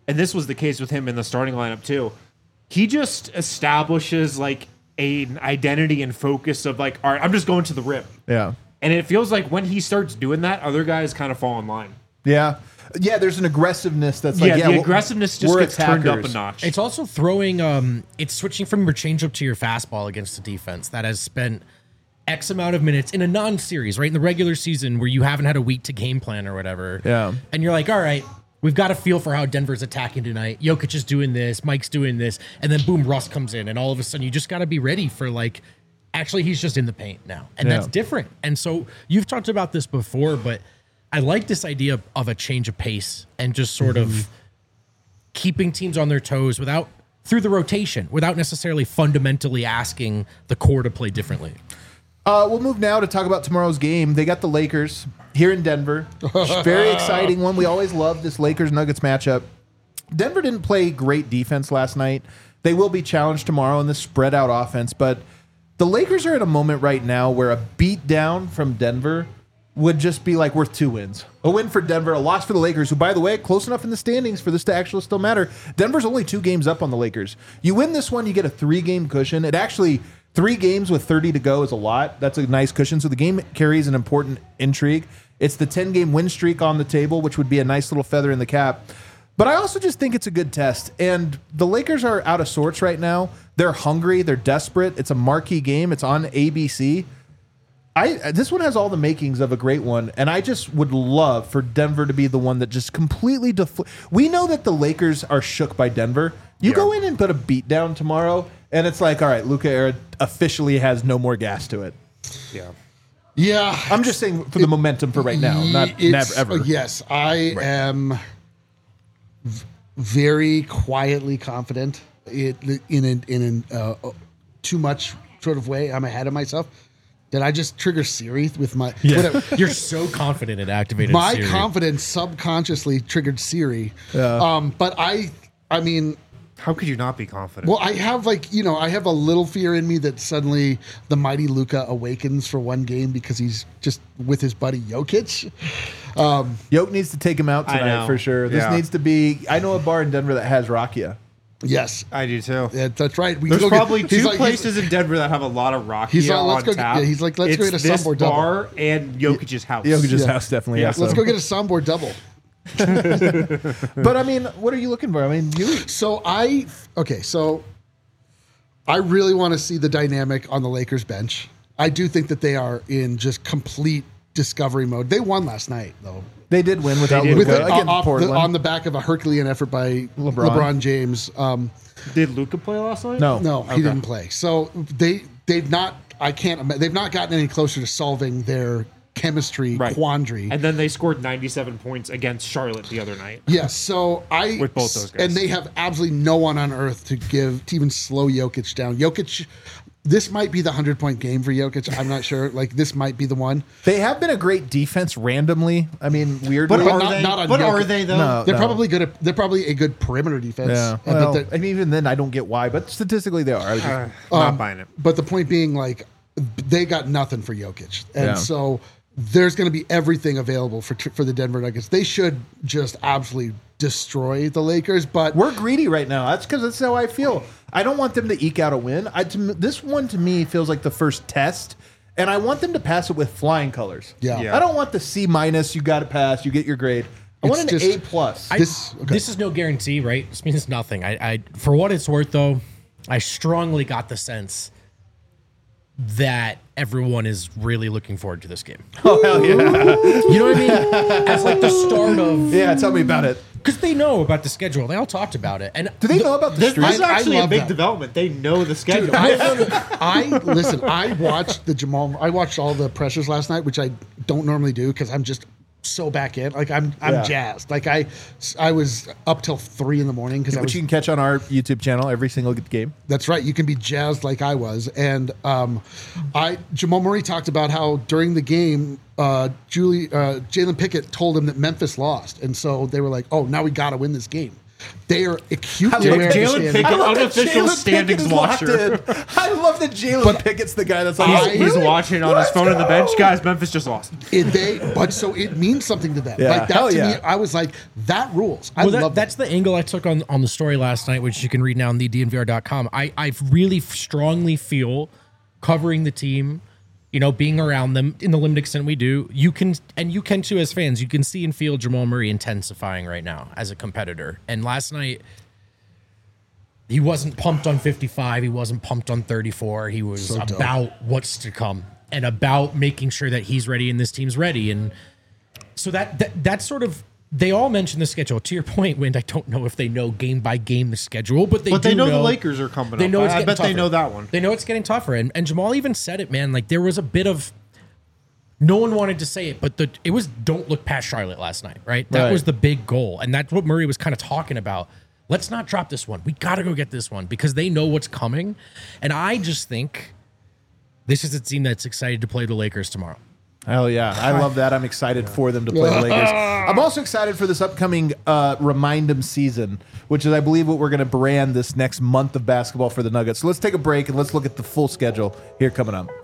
and this was the case with him in the starting lineup too, he just establishes like a, an identity and focus of like, all right, I'm just going to the rim. Yeah. And it feels like when he starts doing that, other guys kind of fall in line. Yeah. Yeah, there's an aggressiveness that's like, yeah, yeah, the well, aggressiveness just we're gets turned up a attackers. notch. It's also throwing, um, it's switching from your changeup to your fastball against the defense that has spent X amount of minutes in a non-series, right? In the regular season where you haven't had a week to game plan or whatever. Yeah. And you're like, all right, we've got a feel for how Denver's attacking tonight. Jokic is doing this, Mike's doing this, and then boom, Russ comes in, and all of a sudden you just got to be ready for like, actually he's just in the paint now, and Yeah. that's different. And so you've talked about this before, but I like this idea of a change of pace and just sort Mm-hmm. of keeping teams on their toes without through the rotation, without necessarily fundamentally asking the core to play differently. Uh, we'll move now to talk about tomorrow's game. They got the Lakers here in Denver. Very exciting one. We always love this Lakers-Nuggets matchup. Denver didn't play great defense last night. They will be challenged tomorrow in this spread-out offense, but the Lakers are at a moment right now where a beat down from Denver would just be like worth two wins. A win for Denver, a loss for the Lakers, who, by the way, close enough in the standings for this to actually still matter. Denver's only two games up on the Lakers. You win this one, you get a three-game cushion. It actually, three games with thirty to go is a lot. That's a nice cushion. So the game carries an important intrigue. It's the ten-game win streak on the table, which would be a nice little feather in the cap. But I also just think it's a good test. And the Lakers are out of sorts right now. They're hungry. They're desperate. It's a marquee game. It's on A B C. I this one has all the makings of a great one, and I just would love for Denver to be the one that just completely defl- We know that the Lakers are shook by Denver. You Yeah. go in and put a beat down tomorrow, and it's like, all right, Luka Era officially has no more gas to it. yeah. Yeah. I'm just saying for the momentum for right now, not It's- never ever. Yes, I am v- very quietly confident it, in an, in an uh, too much sort of way. I'm ahead of myself. Did I just trigger Siri with my whatever? You're so confident it activated My Siri. confidence subconsciously triggered Siri. Um, but I, I mean, How could you not be confident? well, I have like, you know, I have a little fear in me that suddenly the mighty Luka awakens for one game because he's just with his buddy Jokic. Yoke needs to take him out I tonight know. for sure. This Yeah. needs to be. I know a bar in Denver that has Rakia. Yes. I do too. Yeah, that's right. We There's go get- probably he's two like- he's- places in Denver that have a lot of Rocky He's like, on let's go get- tap. yeah, he's like, let's go It's get a this Sunboard double. bar and Jokic's house. Jokic's Yeah. house definitely Yeah. has Let's some. go get a soundboard double. But I mean, what are you looking for? I mean, you. So I okay, so I really want to see the dynamic on the Lakers bench. I do think that they are in just complete discovery mode. They won last night though. They did win without did. Luka With it, against off the, Portland. on the back of a Herculean effort by LeBron. LeBron, James. Um, Did Luca play last night? no, no, he didn't play. So they they've not. I can't. ima- They've not gotten any closer to solving their chemistry Right. quandary. And then they scored ninety-seven points against Charlotte the other night. Yes, so I With both those guys. and they have absolutely no one on earth to give to even slow Jokic down. Jokic, this might be the hundred point game for Jokic. I'm not sure. Like this might be the one. They have been a great defense randomly. I mean, weirdly. But, But are not- they? not on but Jokic. are they though? No. They're probably good. At, they're probably a good perimeter defense. Yeah. Uh, but Well, they're- I mean, even then, I don't get why, but statistically, they are. I was just- Uh, not buying it. But the point being, like, they got nothing for Jokic, and Yeah. so there's going to be everything available for for the Denver Nuggets. They should just absolutely destroy the Lakers. But we're greedy right now. That's because that's how I feel. I don't want them to eke out a win. I, to, me- this one to me feels like the first test, and I want them to pass it with flying colors. Yeah. Yeah. I don't want the C minus. You got to pass. You get your grade. I It's want an just- A plus. I- This- okay. This is no guarantee, right? This means nothing. I, I, for what it's worth, though, I strongly got the sense that everyone is really looking forward to this game. Oh hell yeah! You know what I mean? As like the start of, Yeah, tell me about it. because they know about the schedule. They all talked about it, and Do they know about the This, streak? this is I- I actually a love big that. development. They know the schedule. I listen. I watched the Jamal. I watched all the pressures last night, which I don't normally do because I'm just so back in. Like I'm, I'm Yeah. jazzed. Like I, I was up till three in the morning because I Which was. you can catch on our YouTube channel every single game. That's right. You can be jazzed like I was, and um, I Jamal Murray talked about how during the game, uh, Julie uh, Jalen Pickett told him that Memphis lost, and so they were like, "Oh, now we got to win this game." They are acutely love aware of the Jalen standings. Pickett- I love that Unofficial Jalen standings Pickett's locked watcher. in. I love that Jalen But Pickett's the guy that's like, I- oh, He's really? watching on his phone in the bench. Guys, Memphis just lost. It, they, but so it means something to them. Yeah, like that hell to yeah. me, I was like, that rules. I Well, that, love that's the angle I took on, on the story last night, which you can read now on the D N V R dot com. I, I really strongly feel covering the team, you know, being around them in the limited extent we do, you can, and you can too as fans, you can see and feel Jamal Murray intensifying right now as a competitor. And last night, he wasn't pumped on fifty-five. He wasn't pumped on thirty-four. He was So dope. about what's to come and about making sure that he's ready and this team's ready. And so that, that that's sort of, they all mention the schedule. To your point, Wind, I don't know if they know game by game the schedule, but they But do they know, the Lakers are coming They up. know it's I, I getting bet they tougher. know that one. They know it's getting tougher. And, and Jamal even said it, man. Like, there was a bit of, no one wanted to say it, but the it was don't look past Charlotte last night, right? That Right. was the big goal. And that's what Murray was kind of talking about. Let's not drop this one. We got to go get this one because they know what's coming. And I just think this is a team that's excited to play the Lakers tomorrow. Hell yeah. I love that. I'm excited for them to play the Lakers. I'm also excited for this upcoming uh, Remind 'em season, which is, I believe, what we're going to brand this next month of basketball for the Nuggets. So let's take a break and let's look at the full schedule here coming up.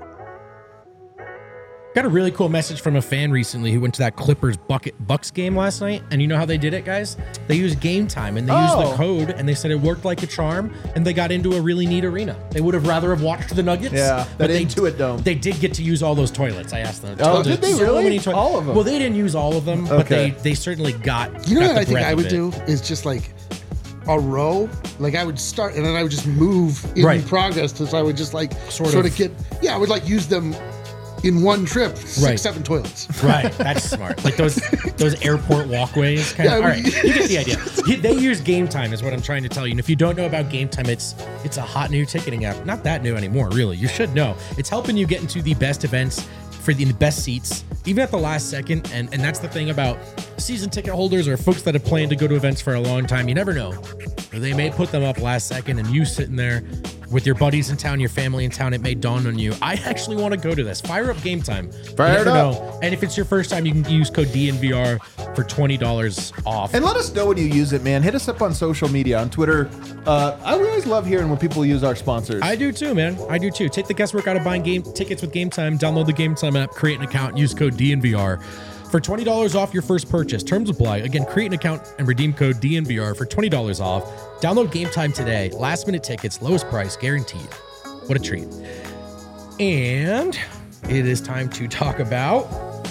Got a really cool message from a fan recently who went to that Clippers bucket Bucks game last night. And you know how they did it, guys? They used Game Time and they used Oh. the code and they said it worked like a charm and they got into a really neat arena. They would have rather have watched the Nuggets. Yeah, but that they, Intuit Dome. They did get to use all those toilets. I asked them. Oh, did they So really? many toi- All of them? Well, they didn't use all of them, but Okay. they, they certainly got. You know got what the I think breadth I of would it. do is just like a row. Like I would start and then I would just move in Right. progress. So I would just like Sort sort, of. of. get, yeah, I would like use them in one trip, six, Right. seven toilets. Right, that's smart. Like those those airport walkways, kind Yeah, of. All we- right, you get the idea. He- They use Game Time, is what I'm trying to tell you. And if you don't know about Game Time, it's it's a hot new ticketing app. Not that new anymore, really. You should know. It's helping you get into the best events for the, the best seats, even at the last second. And and that's the thing about season ticket holders or folks that have planned to go to events for a long time. You never know. They may put them up last second, and you sitting there with your buddies in town, your family in town, it may dawn on you, I actually want to go to this. Fire up Game Time. Fire you it never up. know. And if it's your first time, you can use code D N V R for twenty dollars off. And let us know when you use it, man. Hit us up on social media, on Twitter. Uh, I always love hearing when people use our sponsors. I do too, man. I do too. Take the guesswork out of buying game tickets with Game Time. Download the Game Time app, create an account, use code D N V R for twenty dollars off your first purchase. Terms apply. Again, create an account and redeem code D N V R for twenty dollars off. Download Game Time today. Last minute tickets, lowest price guaranteed. What a treat. And it is time to talk about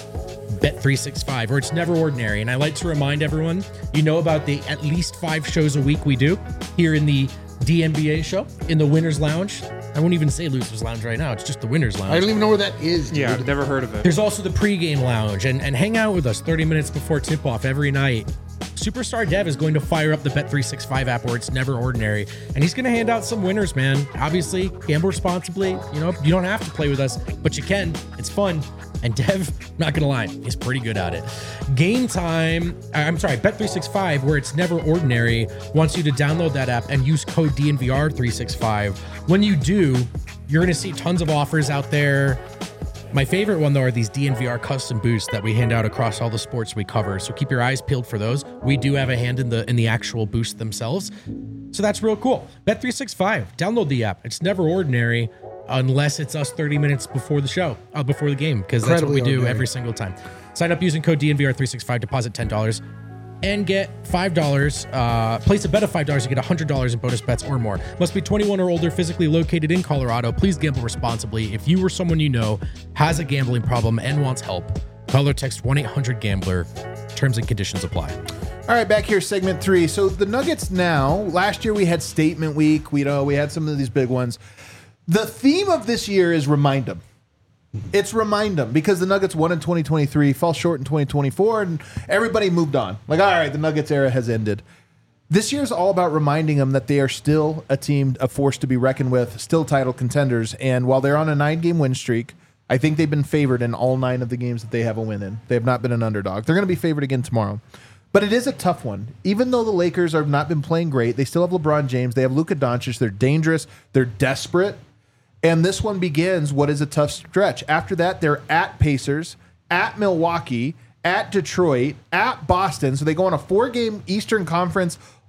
Bet three sixty-five, or It's Never Ordinary. And I like to remind everyone, you know about the at least five shows a week we do here in the D N B A show, in the Winners Lounge. I won't even say Losers Lounge right now. It's just the Winners Lounge. I don't even know where that is, dude. Yeah, I've never heard of it. There's also the pregame lounge, and, and hang out with us thirty minutes before tip-off every night. Superstar Dev is going to fire up the Bet three sixty-five app where it's never ordinary, and he's going to hand out some winners, man. Obviously, gamble responsibly. You know, you don't have to play with us, but you can. It's fun. And Dev, not going to lie, he's pretty good at it. Game Time, I'm sorry, Bet three sixty-five, where it's never ordinary, wants you to download that app and use code D N V R three sixty-five. When you do, you're going to see tons of offers out there. My favorite one, though, are these D N V R custom boosts that we hand out across all the sports we cover. So keep your eyes peeled for those. We do have a hand in the in the actual boost themselves. So that's real cool. Bet three sixty-five. Download the app. It's never ordinary unless it's us thirty minutes before the show, uh, before the game, because that's what we Incredibly do ordinary. every single time. Sign up using code D N V R three sixty-five, deposit ten dollars, and get five dollars. Uh, place a bet of five dollars, you get one hundred dollars in bonus bets or more. Must be twenty-one or older, physically located in Colorado. Please gamble responsibly. If you or someone you know has a gambling problem and wants help, call or text one eight hundred gambler. Terms and conditions apply. All right, back here, segment three. So the Nuggets now, last year we had statement week. We know we had some of these big ones. The theme of this year is remind them. It's remind them because the Nuggets won in twenty twenty-three, fell short in twenty twenty-four, and everybody moved on. Like, all right, the Nuggets era has ended. This year is all about reminding them that they are still a team, a force to be reckoned with, still title contenders. And while they're on a nine-game win streak, I think they've been favored in all nine of the games that they have a win in. They have not been an underdog. They're going to be favored again tomorrow. But it is a tough one. Even though the Lakers have not been playing great, they still have LeBron James. They have Luka Doncic. They're dangerous. They're desperate. And this one begins what is a tough stretch. After that, they're at Pacers, at Milwaukee, at Detroit, at Boston. So they go on a four-game Eastern Conference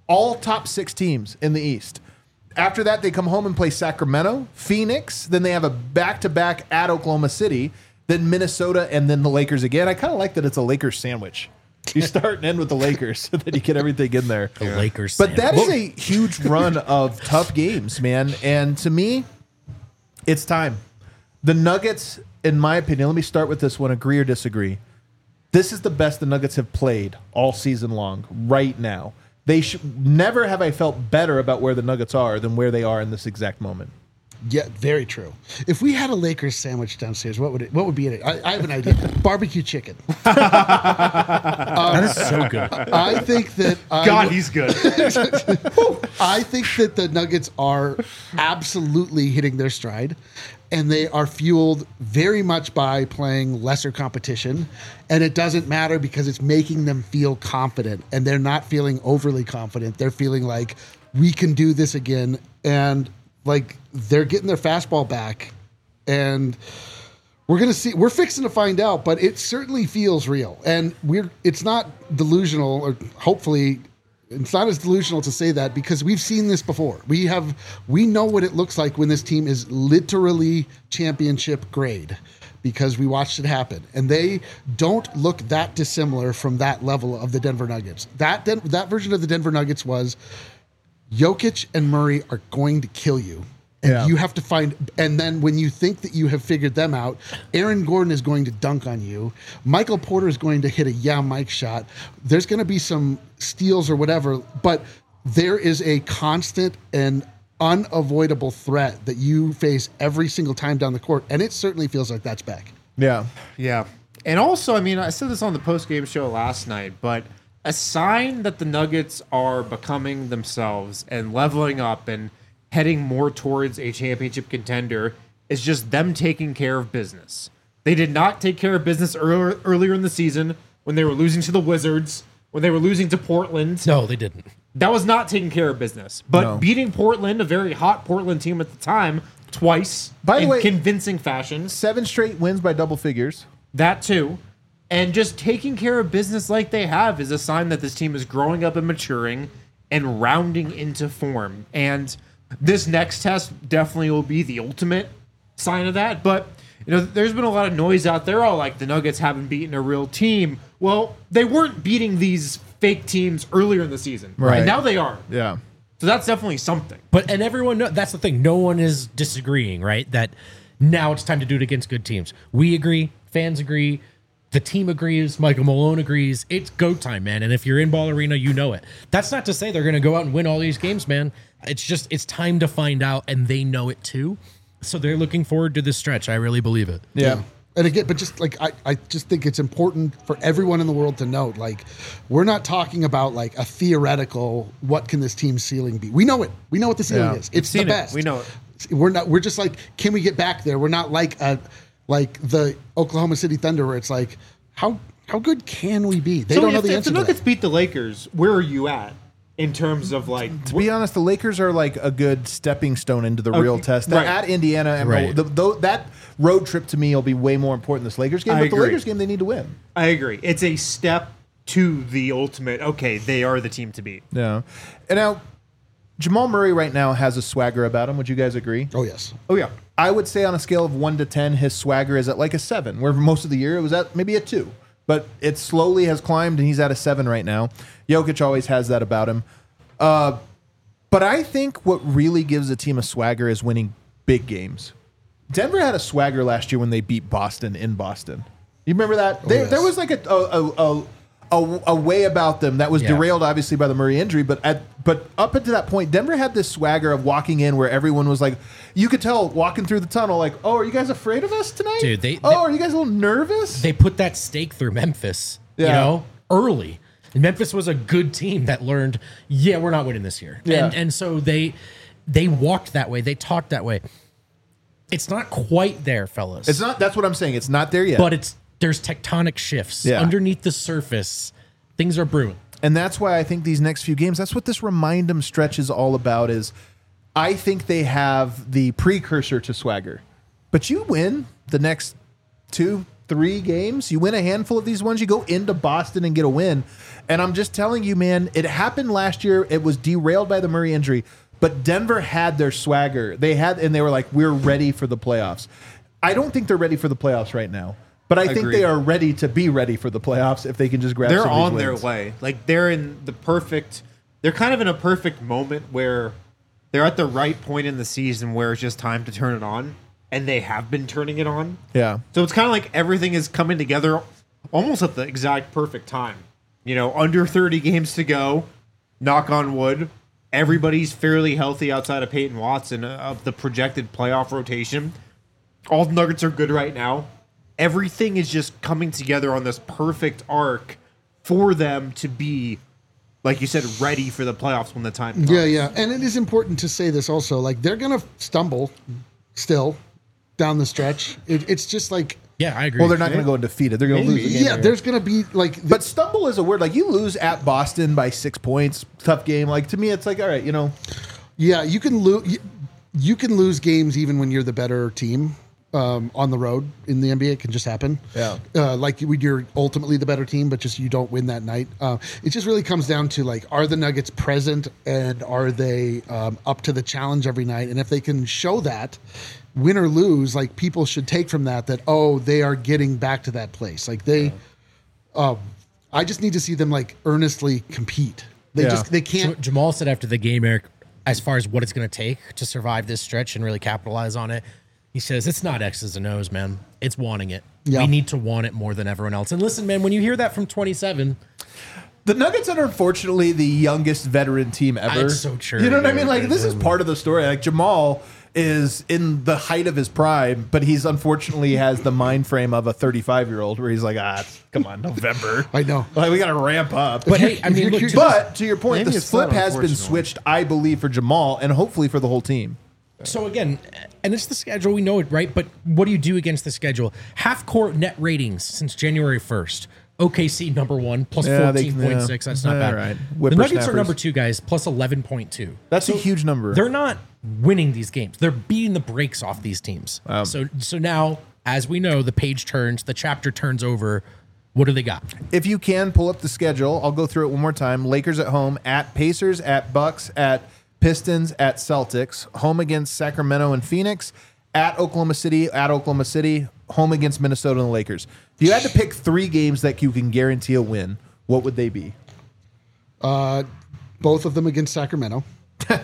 all top six teams in the East. After that, they come home and play Sacramento, Phoenix. Then they have a back-to-back at Oklahoma City, then Minnesota, and then the Lakers again. I kind of like that it's a Lakers sandwich. You start and end with the Lakers so that you get everything in there. The Lakers. But that is sandwich. a huge run of tough games, man. And to me, it's time. The Nuggets, in my opinion, let me start with this one, agree or disagree. This is the best the Nuggets have played all season long right now. They should never have I felt better about where the Nuggets are than where they are in this exact moment. Yeah, very true. If we had a Lakers sandwich downstairs, what would it? What would be in it? I, I have an idea. Barbecue chicken. That is so good. I think that I God, would- he's good. I think that the Nuggets are absolutely hitting their stride, and they are fueled very much by playing lesser competition. And it doesn't matter because it's making them feel confident, and they're not feeling overly confident. They're feeling like we can do this again, and like they're getting their fastball back, and we're gonna see. We're fixing to find out, but it certainly feels real, and we're. It's not delusional, or hopefully. It's not as delusional to say that because we've seen this before. We have, we know what it looks like when this team is literally championship grade because we watched it happen. And they don't look that dissimilar from that level of the Denver Nuggets. That Den- that version of the Denver Nuggets was Jokic and Murray are going to kill you. And Yeah. you have to find, and then when you think that you have figured them out, Aaron Gordon is going to dunk on you. Michael Porter is going to hit a yeah Mike shot. There's going to be some steals or whatever, but there is a constant and unavoidable threat that you face every single time down the court, and it certainly feels like that's back. Yeah. Yeah. And also, I mean, I said this on the post-game show last night, but a sign that the Nuggets are becoming themselves and leveling up and heading more towards a championship contender is just them taking care of business. They did not take care of business earlier, earlier in the season when they were losing to the Wizards, when they were losing to Portland. No, they didn't. That was not taking care of business. But No. beating Portland, a very hot Portland team at the time, twice By the in way- convincing fashion. Seven straight wins by double figures. That too. And just taking care of business like they have is a sign that this team is growing up and maturing and rounding into form. And this next test definitely will be the ultimate sign of that. But, you know, there's been a lot of noise out there. Oh, like the Nuggets haven't beaten a real team. Well, they weren't beating these fake teams earlier in the season. Right. And now they are. Yeah. So that's definitely something. But and everyone know that's the thing. No one is disagreeing, right? That now it's time to do it against good teams. We agree, fans agree, the team agrees, Michael Malone agrees. It's go time, man. And if you're in Ball Arena, you know it. That's not to say they're gonna go out and win all these games, man. It's just it's time to find out, and they know it too. So they're looking forward to this stretch. I really believe it. Yeah. And again, but just like I, I just think it's important for everyone in the world to note, like, we're not talking about like a theoretical what can this team's ceiling be. We know it. We know what the ceiling Yeah. is. It's the seen it. best. We know it. We're not we're just like, can we get back there? We're not like a like the Oklahoma City Thunder where it's like, how how good can we be? They So don't know if, the if answer the to Nuggets that. beat the Lakers, where are you at in terms of like To be honest, the Lakers are like a good stepping stone into the real test. right. At Indiana, and Right. the, the, that road trip to me will be way more important than this Lakers game. I but the agree. Lakers game, they need to win. I agree. It's a step to the ultimate. Okay, they are the team to beat. Yeah. And now, Jamal Murray right now has a swagger about him. Would you guys agree? Oh yes. Oh yeah. I would say on a scale of one to ten, his swagger is at like a seven, where most of the year it was at maybe a two. But it slowly has climbed, and he's at a seven right now. Jokic always has that about him. Uh, but I think what really gives a team a swagger is winning big games. Denver had a swagger last year when they beat Boston in Boston. You remember that? There, yes. there was like a a, a, a a way about them that was Yeah. derailed, obviously, by the Murray injury. But at but up until that point, Denver had this swagger of walking in where everyone was like, you could tell walking through the tunnel, like, oh, are you guys afraid of us tonight? Dude, they- oh, they- are you guys a little nervous? They put that stake through Memphis, you Yeah. know, early. And Memphis was a good team that learned, yeah, we're not winning this year. Yeah. And and so they they walked that way. They talked that way. It's not quite there, fellas. It's not. That's what I'm saying. It's not there yet. But it's there's tectonic shifts Yeah. underneath the surface. Things are brewing. And that's why I think these next few games, that's what this remind 'em stretch is all about, is I think they have the precursor to swagger. But you win the next two, three games. You win a handful of these ones. You go into Boston and get a win. And I'm just telling you, man, it happened last year. It was derailed by the Murray injury, but Denver had their swagger. They had, and they were like, we're ready for the playoffs. I don't think they're ready for the playoffs right now, but I think Agreed. they are ready to be ready for the playoffs if they can just grab They're some of these on their wins. way. Like they're in the perfect. They're kind of in a perfect moment where they're at the right point in the season where it's just time to turn it on, and they have been turning it on. Yeah. So it's kind of like everything is coming together almost at the exact perfect time. You know, under thirty games to go, knock on wood. Everybody's fairly healthy outside of Peyton Watson of the projected playoff rotation. All the Nuggets are good right now. Everything is just coming together on this perfect arc for them to be, like you said, ready for the playoffs when the time comes. Yeah, yeah. And it is important to say this also. Like, they're going to stumble still down the stretch. It, it's just like, Yeah, I agree. Well, they're not going to go undefeated. They're going to lose the game. yeah, there's going to be like, But stumble is a word. Like, you lose at Boston by six points. Tough game. Like, to me, it's like, all right, you know. yeah, you can lose. You, you can lose games even when you're the better team um, on the road in the N B A. It can just happen. Yeah. Uh, like when you're ultimately the better team, but just you don't win that night. Uh, it just really comes down to like, are the Nuggets present and are they um, up to the challenge every night? And if they can show that, win or lose, like people should take from that that oh, they are getting back to that place. Like they, um, I just need to see them like earnestly compete. They Yeah. just they can't. Jamal said after the game, Eric, as far as what it's going to take to survive this stretch and really capitalize on it, he says it's not X's and O's, man. It's wanting it. Yeah. We need to want it more than everyone else. And listen, man, when you hear that from twenty-seven, The Nuggets are unfortunately the youngest veteran team ever. It's so true, You know what I dude. mean? Like, this is part of the story. Like, Jamal is in the height of his prime, but he's unfortunately has the mind frame of a thirty-five year old where he's like, ah, it's- come on, November. I know. Like, we got to ramp up. but hey, I mean, look, to But to your point, Maybe the it's flip not has been unfortunate. switched, I believe, for Jamal and hopefully for the whole team. So again, and it's the schedule, we know it, right? But what do you do against the schedule? Half court net ratings since January first. O K C number one, plus Yeah, they- fourteen point six. yeah. That's not All bad. right. The Nuggets are Whippersnappers. number two, guys, plus eleven point two. That's a huge number. They're not winning these games. They're beating the brakes off these teams. so so now, as we know, the page turns, the chapter turns over. What do they got? If you can pull up the schedule, I'll go through it one more time. Lakers at home, at Pacers, at Bucks, at Pistons, at Celtics, home against Sacramento and Phoenix, at Oklahoma City, at Oklahoma City, home against Minnesota and the Lakers. If you had to pick three games that you can guarantee a win, what would they be? Both of them against Sacramento. They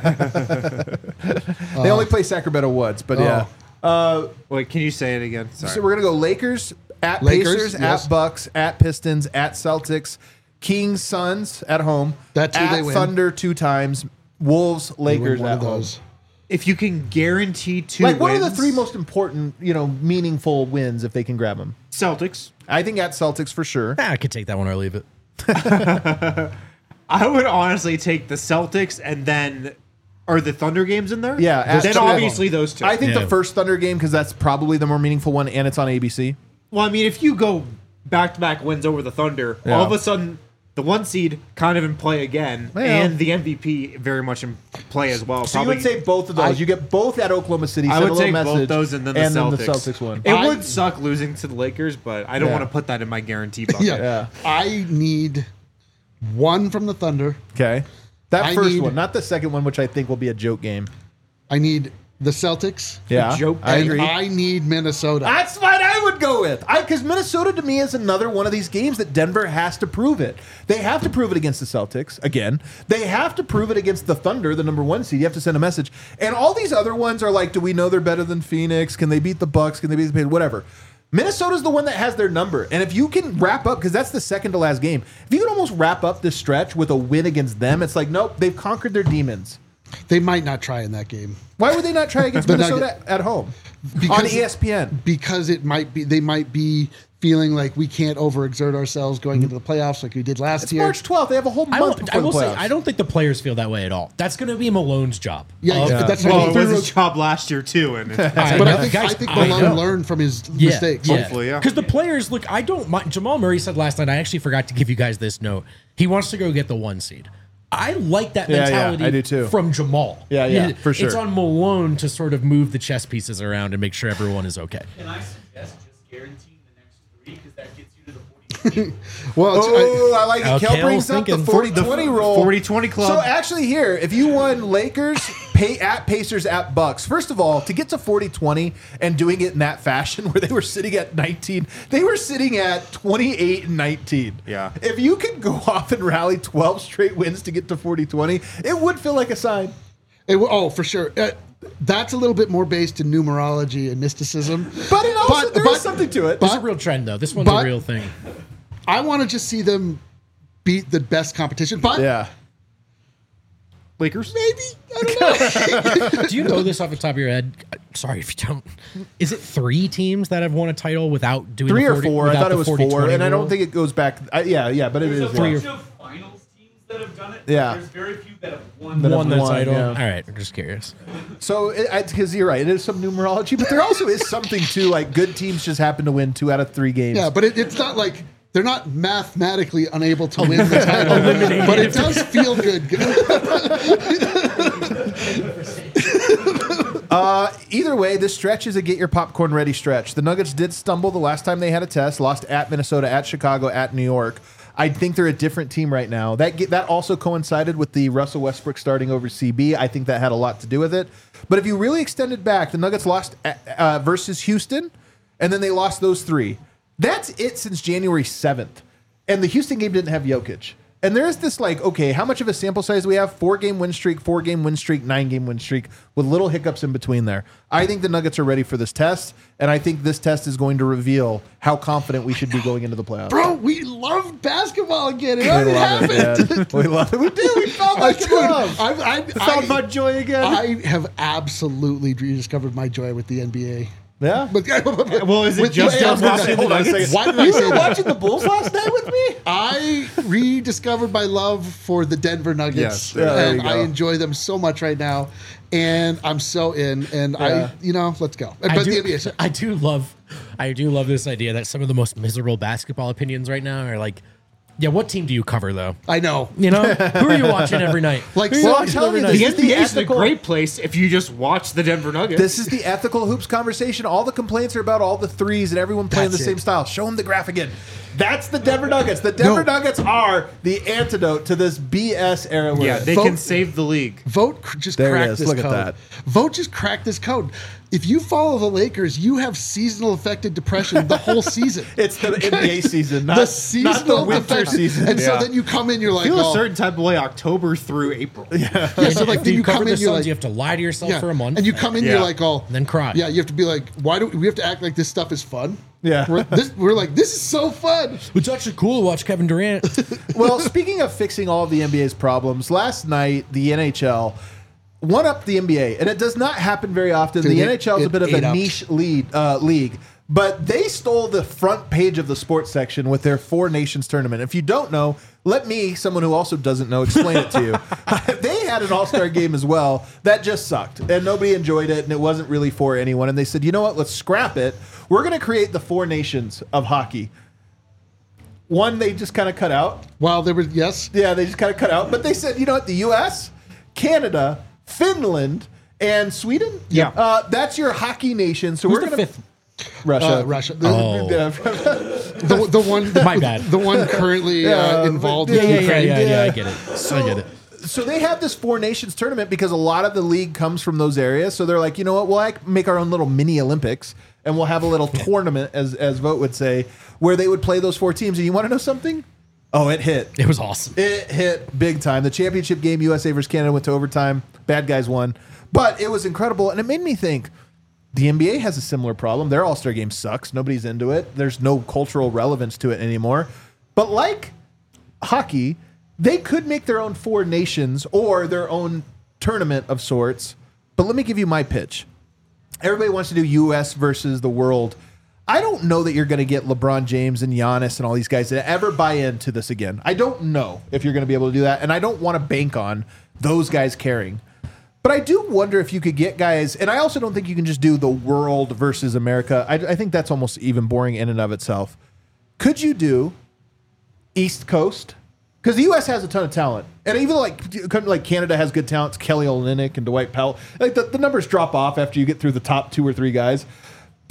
only play Sacramento once, but yeah. Wait, can you say it again? Sorry. So we're gonna go Lakers at Lakers, Pacers, yes. at Bucks, at Pistons, at Celtics, Kings, Suns at home, That's who at they win. Thunder two times, Wolves, They win Lakers one at of home. those. if you can guarantee two Like, what are wins, the three most important, you know, meaningful wins if they can grab them? Celtics. I think at Celtics for sure. Ah, I could take that one or leave it. I would honestly take the Celtics and then are the Thunder games in there? Yeah, at- Then two of obviously those two. I think Yeah. the first Thunder game because that's probably the more meaningful one, and it's on A B C. Well, I mean, if you go back to back wins over the Thunder, Yeah. all of a sudden the one seed kind of in play again, Yeah. and the M V P very much in play as well. So you would say both of those. I- you get both at Oklahoma City. I send a would little take message, both those and then the Celtics. Celtics one. It I- would suck losing to the Lakers, but I don't Yeah. want to put that in my guarantee bucket. Yeah. Yeah. I need one from the Thunder. Okay. That I first need- one, not the second one, which I think will be a joke game. I need the Celtics. Yeah, joke I and agree. I need Minnesota. That's what I would go with. I because Minnesota to me is another one of these games that Denver has to prove it. They have to prove it against the Celtics again. They have to prove it against the Thunder, the number one seed. You have to send a message. And all these other ones are like, do we know they're better than Phoenix? Can they beat the Bucks? Can they beat the Pacers? Whatever. Minnesota's the one that has their number. And if you can wrap up, because that's the second to last game, if you can almost wrap up this stretch with a win against them, it's like, nope, they've conquered their demons. They might not try in that game Why would they not try against The Minnesota at home? On Because- E S P N. because it might be. They might be feeling like we can't overexert ourselves going into the playoffs like we did last It's year. March twelfth. They have a whole I, month will, before I will the say, playoffs. I don't think the players feel that way at all. That's going to be Malone's job. Yeah, Of- yeah, that's Well, what it he was threw- his job last year too, and it's, I But know. I think Guys, I think I Malone know. learned from his Yeah, mistakes. yeah. Hopefully, yeah. Because the players, look, I don't mind. Jamal Murray said last night, I actually forgot to give you guys this note. He wants to go get the one seed. I like that Yeah, yeah, mentality I do too. from Jamal. Yeah, yeah, It- for sure. It's on Malone to sort of move the chess pieces around and make sure everyone is okay. Can I suggest just guaranteeing the Well, it's, Oh, I like it. Oh, Kel Kale's brings up the thinking. forty twenty rule. forty twenty club. So actually here, if you won Lakers, pay at Pacers, at Bucks, first of all, to get to forty twenty and doing it in that fashion where they were sitting at nineteen, they were sitting at twenty-eight and nineteen. Yeah. If you could go off and rally twelve straight wins to get to forty twenty, it would feel like a sign. it, oh, for sure. Uh, that's a little bit more based in numerology and mysticism. But it also, But- there is but- something to it. It's a real trend, though. This one's but- a real thing. I want to just see them beat the best competition. But yeah. Lakers. maybe, I don't know. Do you know this off the top of your head? Sorry if you don't. Is it three teams that have won a title without doing Three the or forty, four. I without thought it the was forty four, twenty and I rule? don't think it goes back. I, yeah, yeah, but it There's is. a yeah. bunch of finals teams that have done it. Yeah. There's very few that have won. That have won the won, title. yeah. All right, I'm just curious. So, because you're right, it is some numerology, but there also is something to like good teams just happen to win two out of three games. Yeah, but it, it's not like they're not mathematically unable to win the title, but it does feel good. Either way, this stretch is a get your popcorn ready stretch. The Nuggets did stumble the last time they had a test, lost at Minnesota, at Chicago, at New York. I think they're a different team right now. That get, that also coincided with the Russell Westbrook starting over C B. I think that had a lot to do with it. But if you really extended back, the Nuggets lost at, uh, versus Houston, and then they lost those three. That's it since January seventh. And the Houston game didn't have Jokic. And there's this like, okay, how much of a sample size do we have? Four game win streak, four game win streak, nine game win streak with little hiccups in between there. I think the Nuggets are ready for this test. And I think this test is going to reveal how confident we should be going into the playoffs. Bro, we love basketball again. It we already love happened. it, man. We love it. We do. We found I, that dude, love. I, I, I, Found my joy again. I have absolutely rediscovered my joy with the N B A. Yeah. But, Well, is it with- just wait, us hold on, watching the hold on a Nuggets? second. Why did I You say were that? watching the Bulls last night with me? I rediscovered my love for the Denver Nuggets, Yes. Yeah, there and you I go. enjoy them so much right now. And I'm so in. And Yeah. I, you know, let's go. But I the do, N B A, so- I do love, I do love this idea that some of the most miserable basketball opinions right now are like, yeah, what team do you cover though? I know. You know, who are you watching every night? Like, Who are you so- watching I'm telling every you, night? this The is N B A the is a ethical- great place if you just watch the Denver Nuggets. This is the ethical hoops conversation. All the complaints are about all the threes and everyone playing That's the same it. style. Show them the graph again. That's the Denver Nuggets. The Denver No. Nuggets are the antidote to this B S era. we're yeah, in. they Vote- can save the league. Vote cr- just There it crack is. this Look at code. that. Vote just crack this code. If you follow the Lakers, you have seasonal affected depression the whole season. It's the N B A season, not the not seasonal the winter affected- season. And so Yeah. then you come in, you're like, Feel a oh, certain type of way October through April. yeah. So like If then you, you cover come the in, you're Suns, like, you have to lie to yourself yeah. for a month, and you come in, Yeah. you're like, oh, then cry. yeah. You have to be like, why do we have to act like this stuff is fun? Yeah. we're, this, we're like, this is so fun. It's actually cool to watch Kevin Durant. Well, speaking of fixing all of the N B A's problems, last night the N H L one up the N B A, and it does not happen very often. Dude, the it- N H L is a it bit of ate a up. niche lead uh, league, but they stole the front page of the sports section with their Four Nations tournament. If you don't know, let me, someone who also doesn't know, explain it to you. They had an all-star game as well that just sucked, and nobody enjoyed it, and it wasn't really for anyone. And they said, you know what? Let's scrap it. We're going to create the Four Nations of hockey. One they just kind of cut out. Well, there was yes. Yeah, they just kind of cut out. But they said, you know what? The U S, Canada, Finland, and Sweden. Yeah. uh, that's your hockey nation. So Who's we're the gonna fifth? Russia. Uh, Russia. The, Oh. the, the one. My bad. The one currently uh, involved. yeah, with Yeah, yeah, Ukraine. yeah, yeah, Yeah. I get it. So, I get it. so they have this Four Nations tournament because a lot of the league comes from those areas. So they're like, you know what? We'll like make our own little mini Olympics, and we'll have a little tournament, as as Vote would say, where they would play those four teams. And you want to know something? Oh, it hit. It was awesome. It hit big time. The championship game, U S A versus Canada, went to overtime. Bad guys won. But it was incredible. And it made me think the N B A has a similar problem. Their All-Star game sucks. Nobody's into it. There's no cultural relevance to it anymore. But like hockey, they could make their own Four Nations or their own tournament of sorts. But let me give you my pitch. Everybody wants to do U S versus the world. I don't know that you're going to get LeBron James and Giannis and all these guys to ever buy into this again. I don't know if you're going to be able to do that, and I don't want to bank on those guys caring. But I do wonder if you could get guys, and I also don't think you can just do the world versus America. I, I think that's almost even boring in and of itself. Could you do East Coast? Because the U S has a ton of talent, and even like like Canada has good talent. Kelly Olynyk and Dwight Powell. Like the, the numbers drop off after you get through the top two or three guys.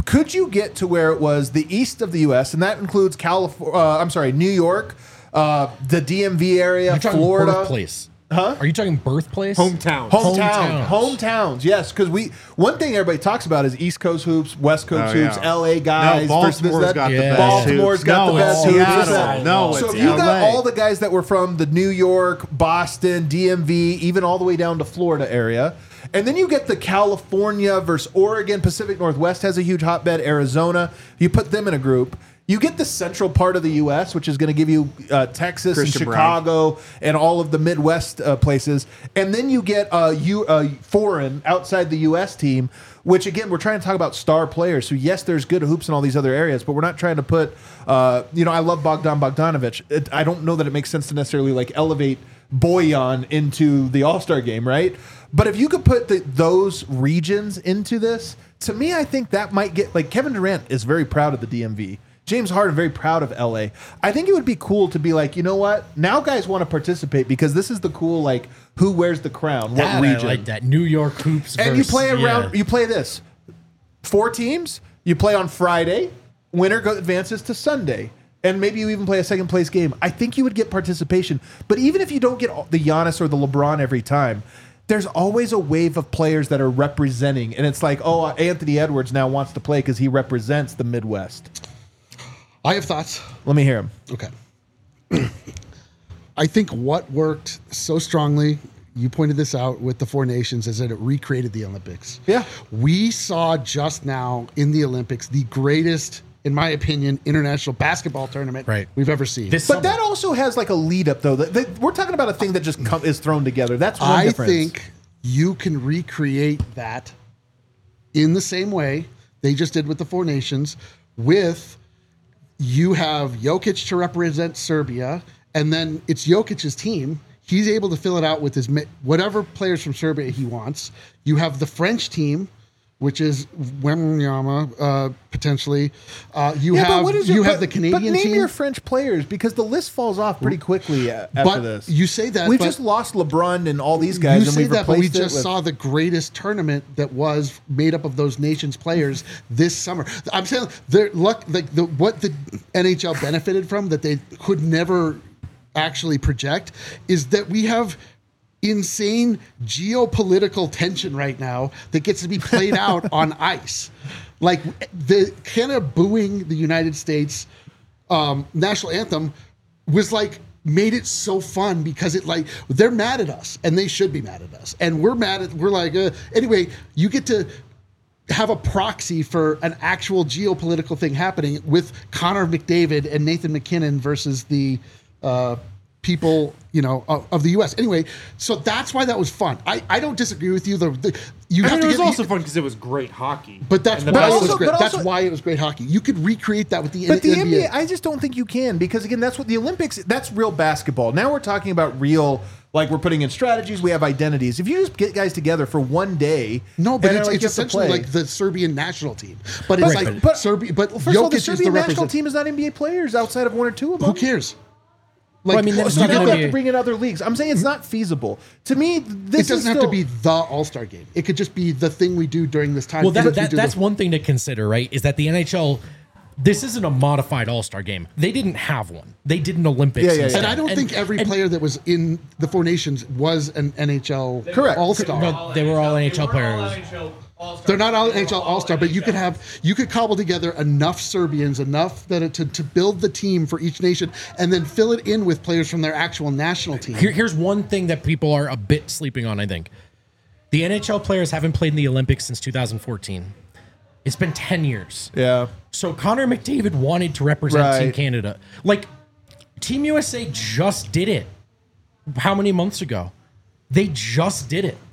could you get to where it was the east of the U S, and that includes California, uh, I'm sorry, New York, uh, the D M V area, You're talking Florida. birthplace. Huh? Are you talking birthplace? Hometown. Hometown, Hometowns. hometowns, yes. Because we one thing everybody talks about is East Coast hoops, West Coast Oh, hoops, yeah. L A guys. No, versus Baltimore's that. got the Yeah. best. Baltimore's hoops. got no, the best it's hoops. Seattle. No, So it's if you L A. got all the guys that were from the New York, Boston, D M V, even all the way down to Florida area, and then you get the California versus Oregon, Pacific Northwest has a huge hotbed, Arizona. You put them in a group. You get the central part of the U S, which is going to give you uh, Texas Christian and Chicago and all of the Midwest uh, places, and then you get a you uh, foreign outside the U S team. Which again, we're trying to talk about star players. So yes, there's good hoops in all these other areas, but we're not trying to put. Uh, you know, I love Bogdan Bogdanovic. It, I don't know that it makes sense to necessarily like elevate Boyan into the All Star game, right? But if you could put the, those regions into this, to me, I think that might get like Kevin Durant is very proud of the D M V. James Harden very proud of L A. I think it would be cool to be like, you know what? Now guys want to participate because this is the cool like who wears the crown, what That, region. I like that. New York hoops. And you versus- play around. yeah. You play this. Four teams. You play on Friday. Winner go, advances to Sunday, and maybe you even play a second place game. I think you would get participation. But even if you don't get the Giannis or the LeBron every time, there's always a wave of players that are representing, and it's like, oh, Anthony Edwards now wants to play because he represents the Midwest. I have thoughts. Let me hear him. Okay. I think what worked so strongly, you pointed this out with the Four Nations, is that it recreated the Olympics. Yeah. We saw just now in the Olympics the greatest, in my opinion, international basketball tournament Right. we've ever seen. This But summer. that also has like a lead up though. That, that- we're talking about a thing that just come, is thrown together. That's one I difference. think you can recreate that in the same way they just did with the Four Nations, with you have Jokic to represent Serbia, and then it's Jokic's team. He's able to fill it out with his mi- whatever players from Serbia he wants. You have the French team, which is Wembanyama, uh, potentially. Uh, you Yeah, but have what is your- you have but- the Canadian But name team. your French players because the list falls off pretty quickly a- after But this. you say that, we've but- just lost LeBron and all these guys, You and say we've that, but we replaced it just with- saw the greatest tournament that was made up of those nations players this summer. I'm saying the luck, like the what the N H L benefited from that they could never actually project is that we have insane geopolitical tension right now that gets to be played out on ice. Like the Canada booing the United States um, national anthem was like made it so fun because it like they're mad at us and they should be mad at us and we're mad at we're like uh, anyway you get to have a proxy for an actual geopolitical thing happening with Connor McDavid and Nathan McKinnon versus the uh, people, you know, of, of the U S. Anyway, so that's why that was fun. I, I don't disagree with you. The, the you I have mean, to it was get, also fun because it was great hockey. but that's And the why best it was also- great. but That's also- why it was great hockey. You could recreate that with the But the N- N B A. B A, I just don't think you can because again, that's what the Olympics. That's real basketball. Now we're talking about real, like we're putting in strategies. We have identities. If you just get guys together for one day, No, but and it's, like, it's you have to essentially play- like the Serbian national team. But it's But- like but- Serbia. But Well, first of all, the Jokic is the Serbian national representative. team is not N B A players outside of one or two of them. Who cares? Like, Well, I mean, then it's So not now gonna we have be- to bring in other leagues. I'm saying it's not feasible. To me, this it doesn't is have still, to be the All Star game. It could just be the thing we do during this time. Well, that, We that, do that's the- one thing to consider, right? Is that the N H L, this isn't a modified All Star game. They didn't have one. They did an Olympics. Yeah, yeah, yeah. instead. And I don't think every and- player that was in the Four Nations was an N H L Correct. All Star. No, they were all N H L They were all players. N H L All-Stars. They're not all They N H were L All Star, but you could N H L. have you could cobble together enough Serbians, enough that it, to to build the team for each nation, and then fill it in with players from their actual national team. Here, here's one thing that people are a bit sleeping on, I think. The N H L players haven't played in the Olympics since two thousand fourteen. It's been ten years. Yeah. So Connor McDavid wanted to represent Team Right. Canada. Like, Team U S A just did it. How many months ago? They just did it.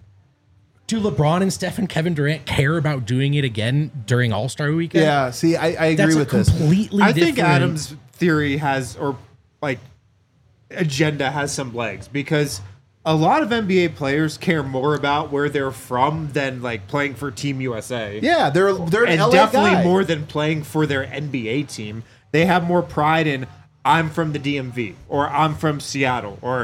Do LeBron and Steph and Kevin Durant care about doing it again during All-Star Weekend? Yeah. See, I, I agree That's a with this. completely I different... think Adam's theory has, or like agenda has some legs because a lot of N B A players care more about where they're from than like playing for Team U S A. Yeah, they're they're an and L A definitely guy. more than playing for their N B A team. They have more pride in I'm from the D M V or I'm from Seattle or And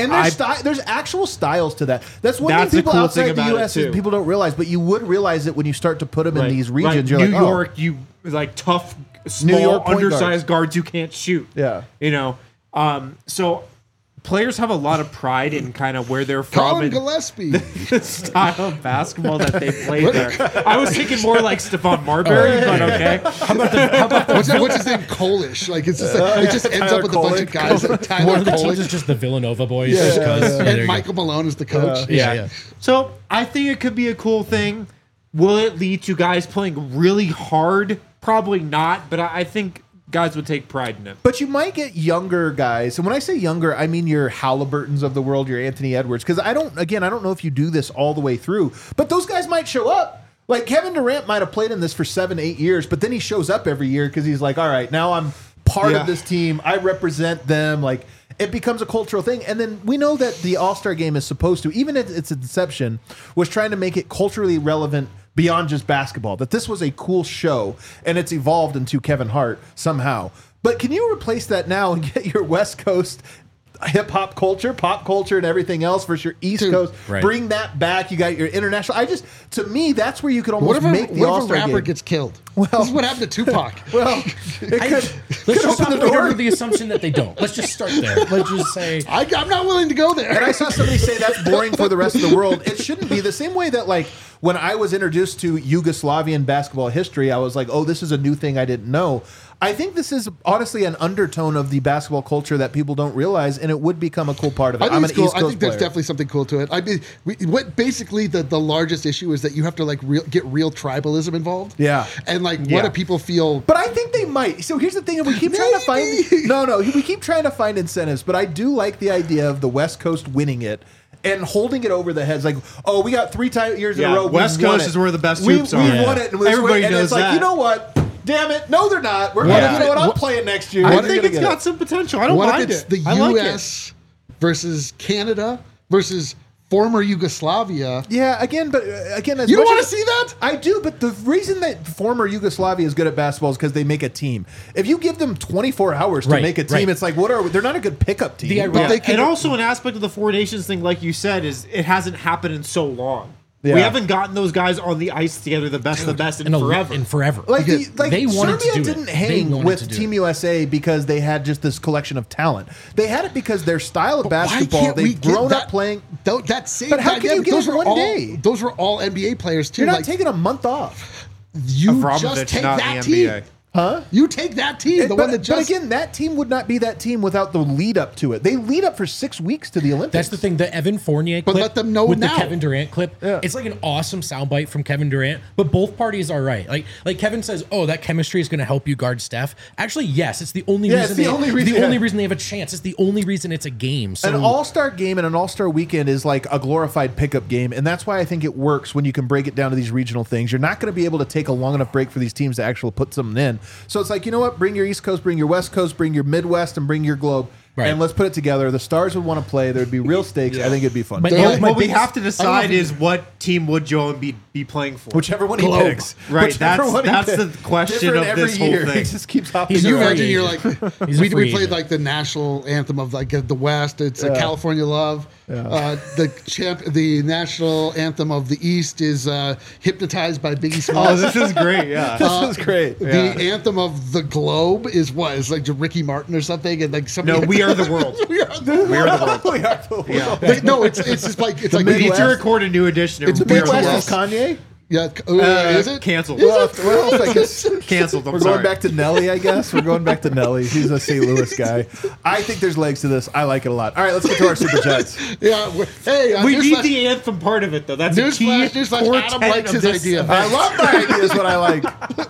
And there's I- sty- there's actual styles to that. That's one That's thing the people cool outside thing the about U it, S is too. people don't realize, but you would realize it when you start to put them in Right, these regions. right. You're New like, oh. York, you like tough, small, York point undersized guards who can't shoot. Yeah. you know. Um, so players have a lot of pride in kind of where they're from Colin and Gillespie. the style of basketball that they play there. I was thinking more like Stephon Marbury, but okay. How about the how about the What's, what's his name? Kolish. Like it's just like, it just ends Tyler up with a bunch of Kolish. guys like Tyler one of the teams Kolish. is just the Villanova boys? Yeah, just yeah, 'cause- yeah. yeah, there And you go. Michael Malone is the coach. Yeah, yeah. So I think it could be a cool thing. Will it lead to guys playing really hard? Probably not, but I, I think guys would take pride in it. But you might get younger guys. And when I say younger, I mean your Halliburtons of the world, your Anthony Edwards. Because I don't, again, I don't know if you do this all the way through, but those guys might show up. Like Kevin Durant might have played in this for seven, eight years, but then he shows up every year because he's like, all right, now I'm part Yeah. of this team. I represent them. Like it becomes a cultural thing. And then we know that the All-Star game is supposed to, even at its inception, was trying to make it culturally relevant beyond just basketball, that this was a cool show and it's evolved into Kevin Hart somehow. But can you replace that now and get your West Coast hip hop culture, pop culture, and everything else versus your East Dude, Coast? right. Bring that back. You got your international. I just, to me, that's where you could What almost if, a, make the what if a All-Star rapper game. gets killed? Well- this is what happened to Tupac. Well, it I- could, let's could just open stop the right door. under the assumption that they don't. Let's just start there. Let's just say I, I'm not willing to go there. And I saw somebody say that's boring for the rest of the world. It shouldn't be the same way that, like, when I was introduced to Yugoslavian basketball history, I was like, oh, this is a new thing I didn't know. I think this is honestly an undertone of the basketball culture that people don't realize, and it would become a cool part of it. I think I'm it's an cool. East I Coast think there's player. definitely something cool to it. I mean, we, what basically the, the largest issue is that you have to like real, get real tribalism involved. Yeah. and like what Yeah. do people feel? But I think they might. So here's the thing: we keep trying to Maybe. find no, no. We keep trying to find incentives, but I do like the idea of the West Coast winning it and holding it over the heads. Like, oh, we got three time years in Yeah, a row. we've West won Coast it. is where the best we, hoops we are. We've Yeah. won it, and, we're- Everybody and knows it's like, that. you know what? Damn it! No, they're not. We're What gonna, if you know it- what? I'm what- playing next year. I You're think gonna it's get got it. some potential. I don't What mind if it's it. the I like U it. S versus Canada versus former Yugoslavia? Yeah, again, but uh, again, as You don't much want to as- see that? I do, but the reason that former Yugoslavia is good at basketball is because they make a team. If you give them twenty-four hours to Right, make a team, right. it's like, what are we? They're not a good pickup team. The But ironic- they And can- also an aspect of the Four Nations thing, like you said, is it hasn't happened in so long. Yeah. We haven't gotten those guys on the ice together, the best of the best, in in, a, forever. in forever. Like, the, like they wanted Serbia to do didn't it. hang They wanted with to do Team it. U S A because they had just this collection of talent. They had it because their style of Why basketball, can't we they've get grown that, up playing. Th- that same But how can you dynamic, get those it were one all, day? Those were all N B A players too. You're not like, taking a month off. you Abramovich, just take not that the N B A. team. Huh? You take that team, the but, one that but just. again, that team would not be that team without the lead up to it. They lead up for six weeks to the Olympics. That's the thing. The Evan Fournier clip But let them know with now. the Kevin Durant clip. Yeah. It's like an awesome soundbite from Kevin Durant, but both parties are right. Like like Kevin says, "Oh, that chemistry is going to help you guard Steph." Actually, yes, it's the only Yeah, reason. it's the they, only reason- The only yeah. reason they have a chance. It's the only reason it's a game. So An all-star game and an all-star weekend is like a glorified pickup game, and that's why I think it works when you can break it down to these regional things. You're not going to be able to take a long enough break for these teams to actually put something in. So it's like, you know what? Bring your East Coast, bring your West Coast, bring your Midwest, and bring your Globe, Right. and let's put it together. The stars would want to play. There'd be real stakes. I think it'd be fun. But- They're Yeah, like- my What we biggest- have to I decide love- is what team would Joel Embiid be playing for. Whichever one he Globe. picks, Right, Whichever that's- one he that's picks. the question Different of every this whole year. thing. He just keeps hopping. He's Can you a around. free imagine? You're agent. like, He's a we, free we played agent. like the national anthem of like uh, the West. It's uh, Yeah. California Love. Uh, the champ, the national anthem of the East is uh, "Hypnotized" by Biggie Oh, Smalls. this is great. Yeah. This is great. The Yeah. anthem of the Globe is what? It's like Ricky Martin or something, and like somebody. No, we are the world. we are the We are the world. We are the world. Like, no, it's it's just like it's like We need Midwest. to record a new edition. It's of We Are the Midwest World. is Kanye. yeah. Uh, Uh, is it canceled. Is Well, it? well, I guess Canceled. I'm we're sorry. going back to Nelly, I guess. We're going back to Nelly. He's a Saint Louis guy. I think there's legs to this. I like it a lot. All right, let's get to our super chats. Yeah. we're- Hey, uh, we need newsflash- the anthem part of it, though. That's a key Newsflash, newsflash, core Adam tenet likes of his this idea. event. I love my ideas. What I like.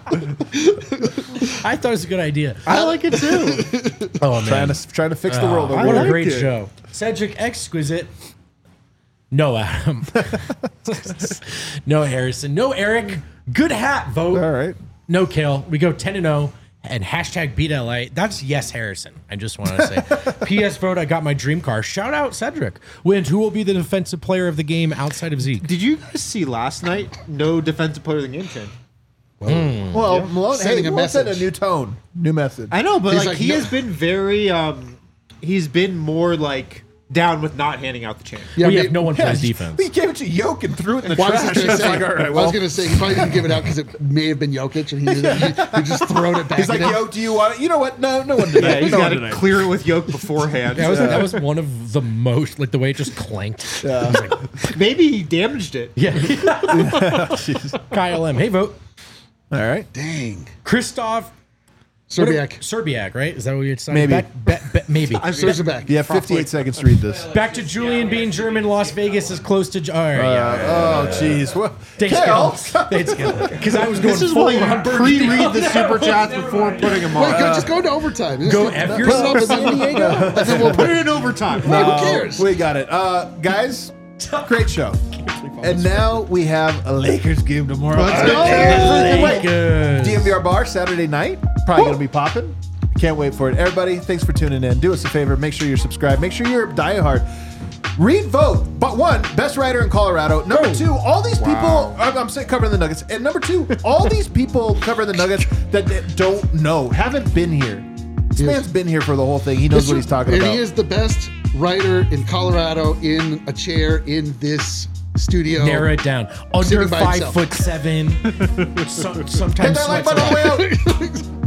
I thought it was a good idea. I like it too. Oh man, Trying to trying to fix the world. Oh, over what here. a great it. show. Cedric Exquisite. No, Adam. No, Harrison. No, Eric. Good hat vote. All right. No kill. We go ten and zero and hashtag beat L A. That's yes, Harrison. I just want to say. P S vote. I got my dream car. Shout out Cedric. Wins. Who will be the defensive player of the game outside of Zeke? Did you guys see last night? No defensive player of the game change. Well, Malone, Sending hey, a Malone sent a message. new tone, new message. I know, but He's like, like, he no- has been very. um He's been more like down with not handing out the chain. Yeah, we maybe- have no one Yeah, plays he- defense. He gave it to Yoke and threw it in the Well, I was trash. just gonna It's say, like, all right, I well. was gonna say he probably didn't give it out because it may have been Jokic, and he, knew that he, he just thrown it back. He's like, at him. Yoke, do you want it? You know what? No, no one did Yeah, that. he's no got one to did that. clear it with Yoke beforehand. That was that was one of the most like the way it just clanked. Maybe he damaged it. Yeah. Kyle M. Hey, vote. All right. Dang, Christoph Serbiak. Serbiak, right? Is that what you're saying? Maybe. Back, ba- ba- maybe. I'm Serbiak. You have fifty-eight seconds to read this. Back to Julian being German. Las Vegas is close to. All right, yeah. Oh, jeez. Well, Thanks, Kale. Kyle. Thanks, Kyle. Because I was going This is full why on you Bernie. pre-read the super chats before putting them Wait, on. go, just go to overtime. Just Go put- F put it yourself, up and San then- Diego. and then we'll Put put it it. in overtime. Who cares? We got it. Uh, guys, great show. And now we have a Lakers game tomorrow. Let's go. Wait, Good. D M V R Bar Saturday night. Probably going to be popping. Can't wait for it. Everybody, thanks for tuning in. Do us a favor. Make sure you're subscribed. Make sure you're diehard. Read vote. But one, best writer in Colorado. Number two, all these people, I'm, I'm saying covering the Nuggets. And number two, all these people covering the Nuggets that, that don't know, haven't been here. This man's been here for the whole thing. He knows what he's talking and about. he is the best writer in Colorado in a chair in this studio. Narrow it down. Under Sitting by five himself. foot seven. so, Hit sometimes that like sweats button a on lot. the way out.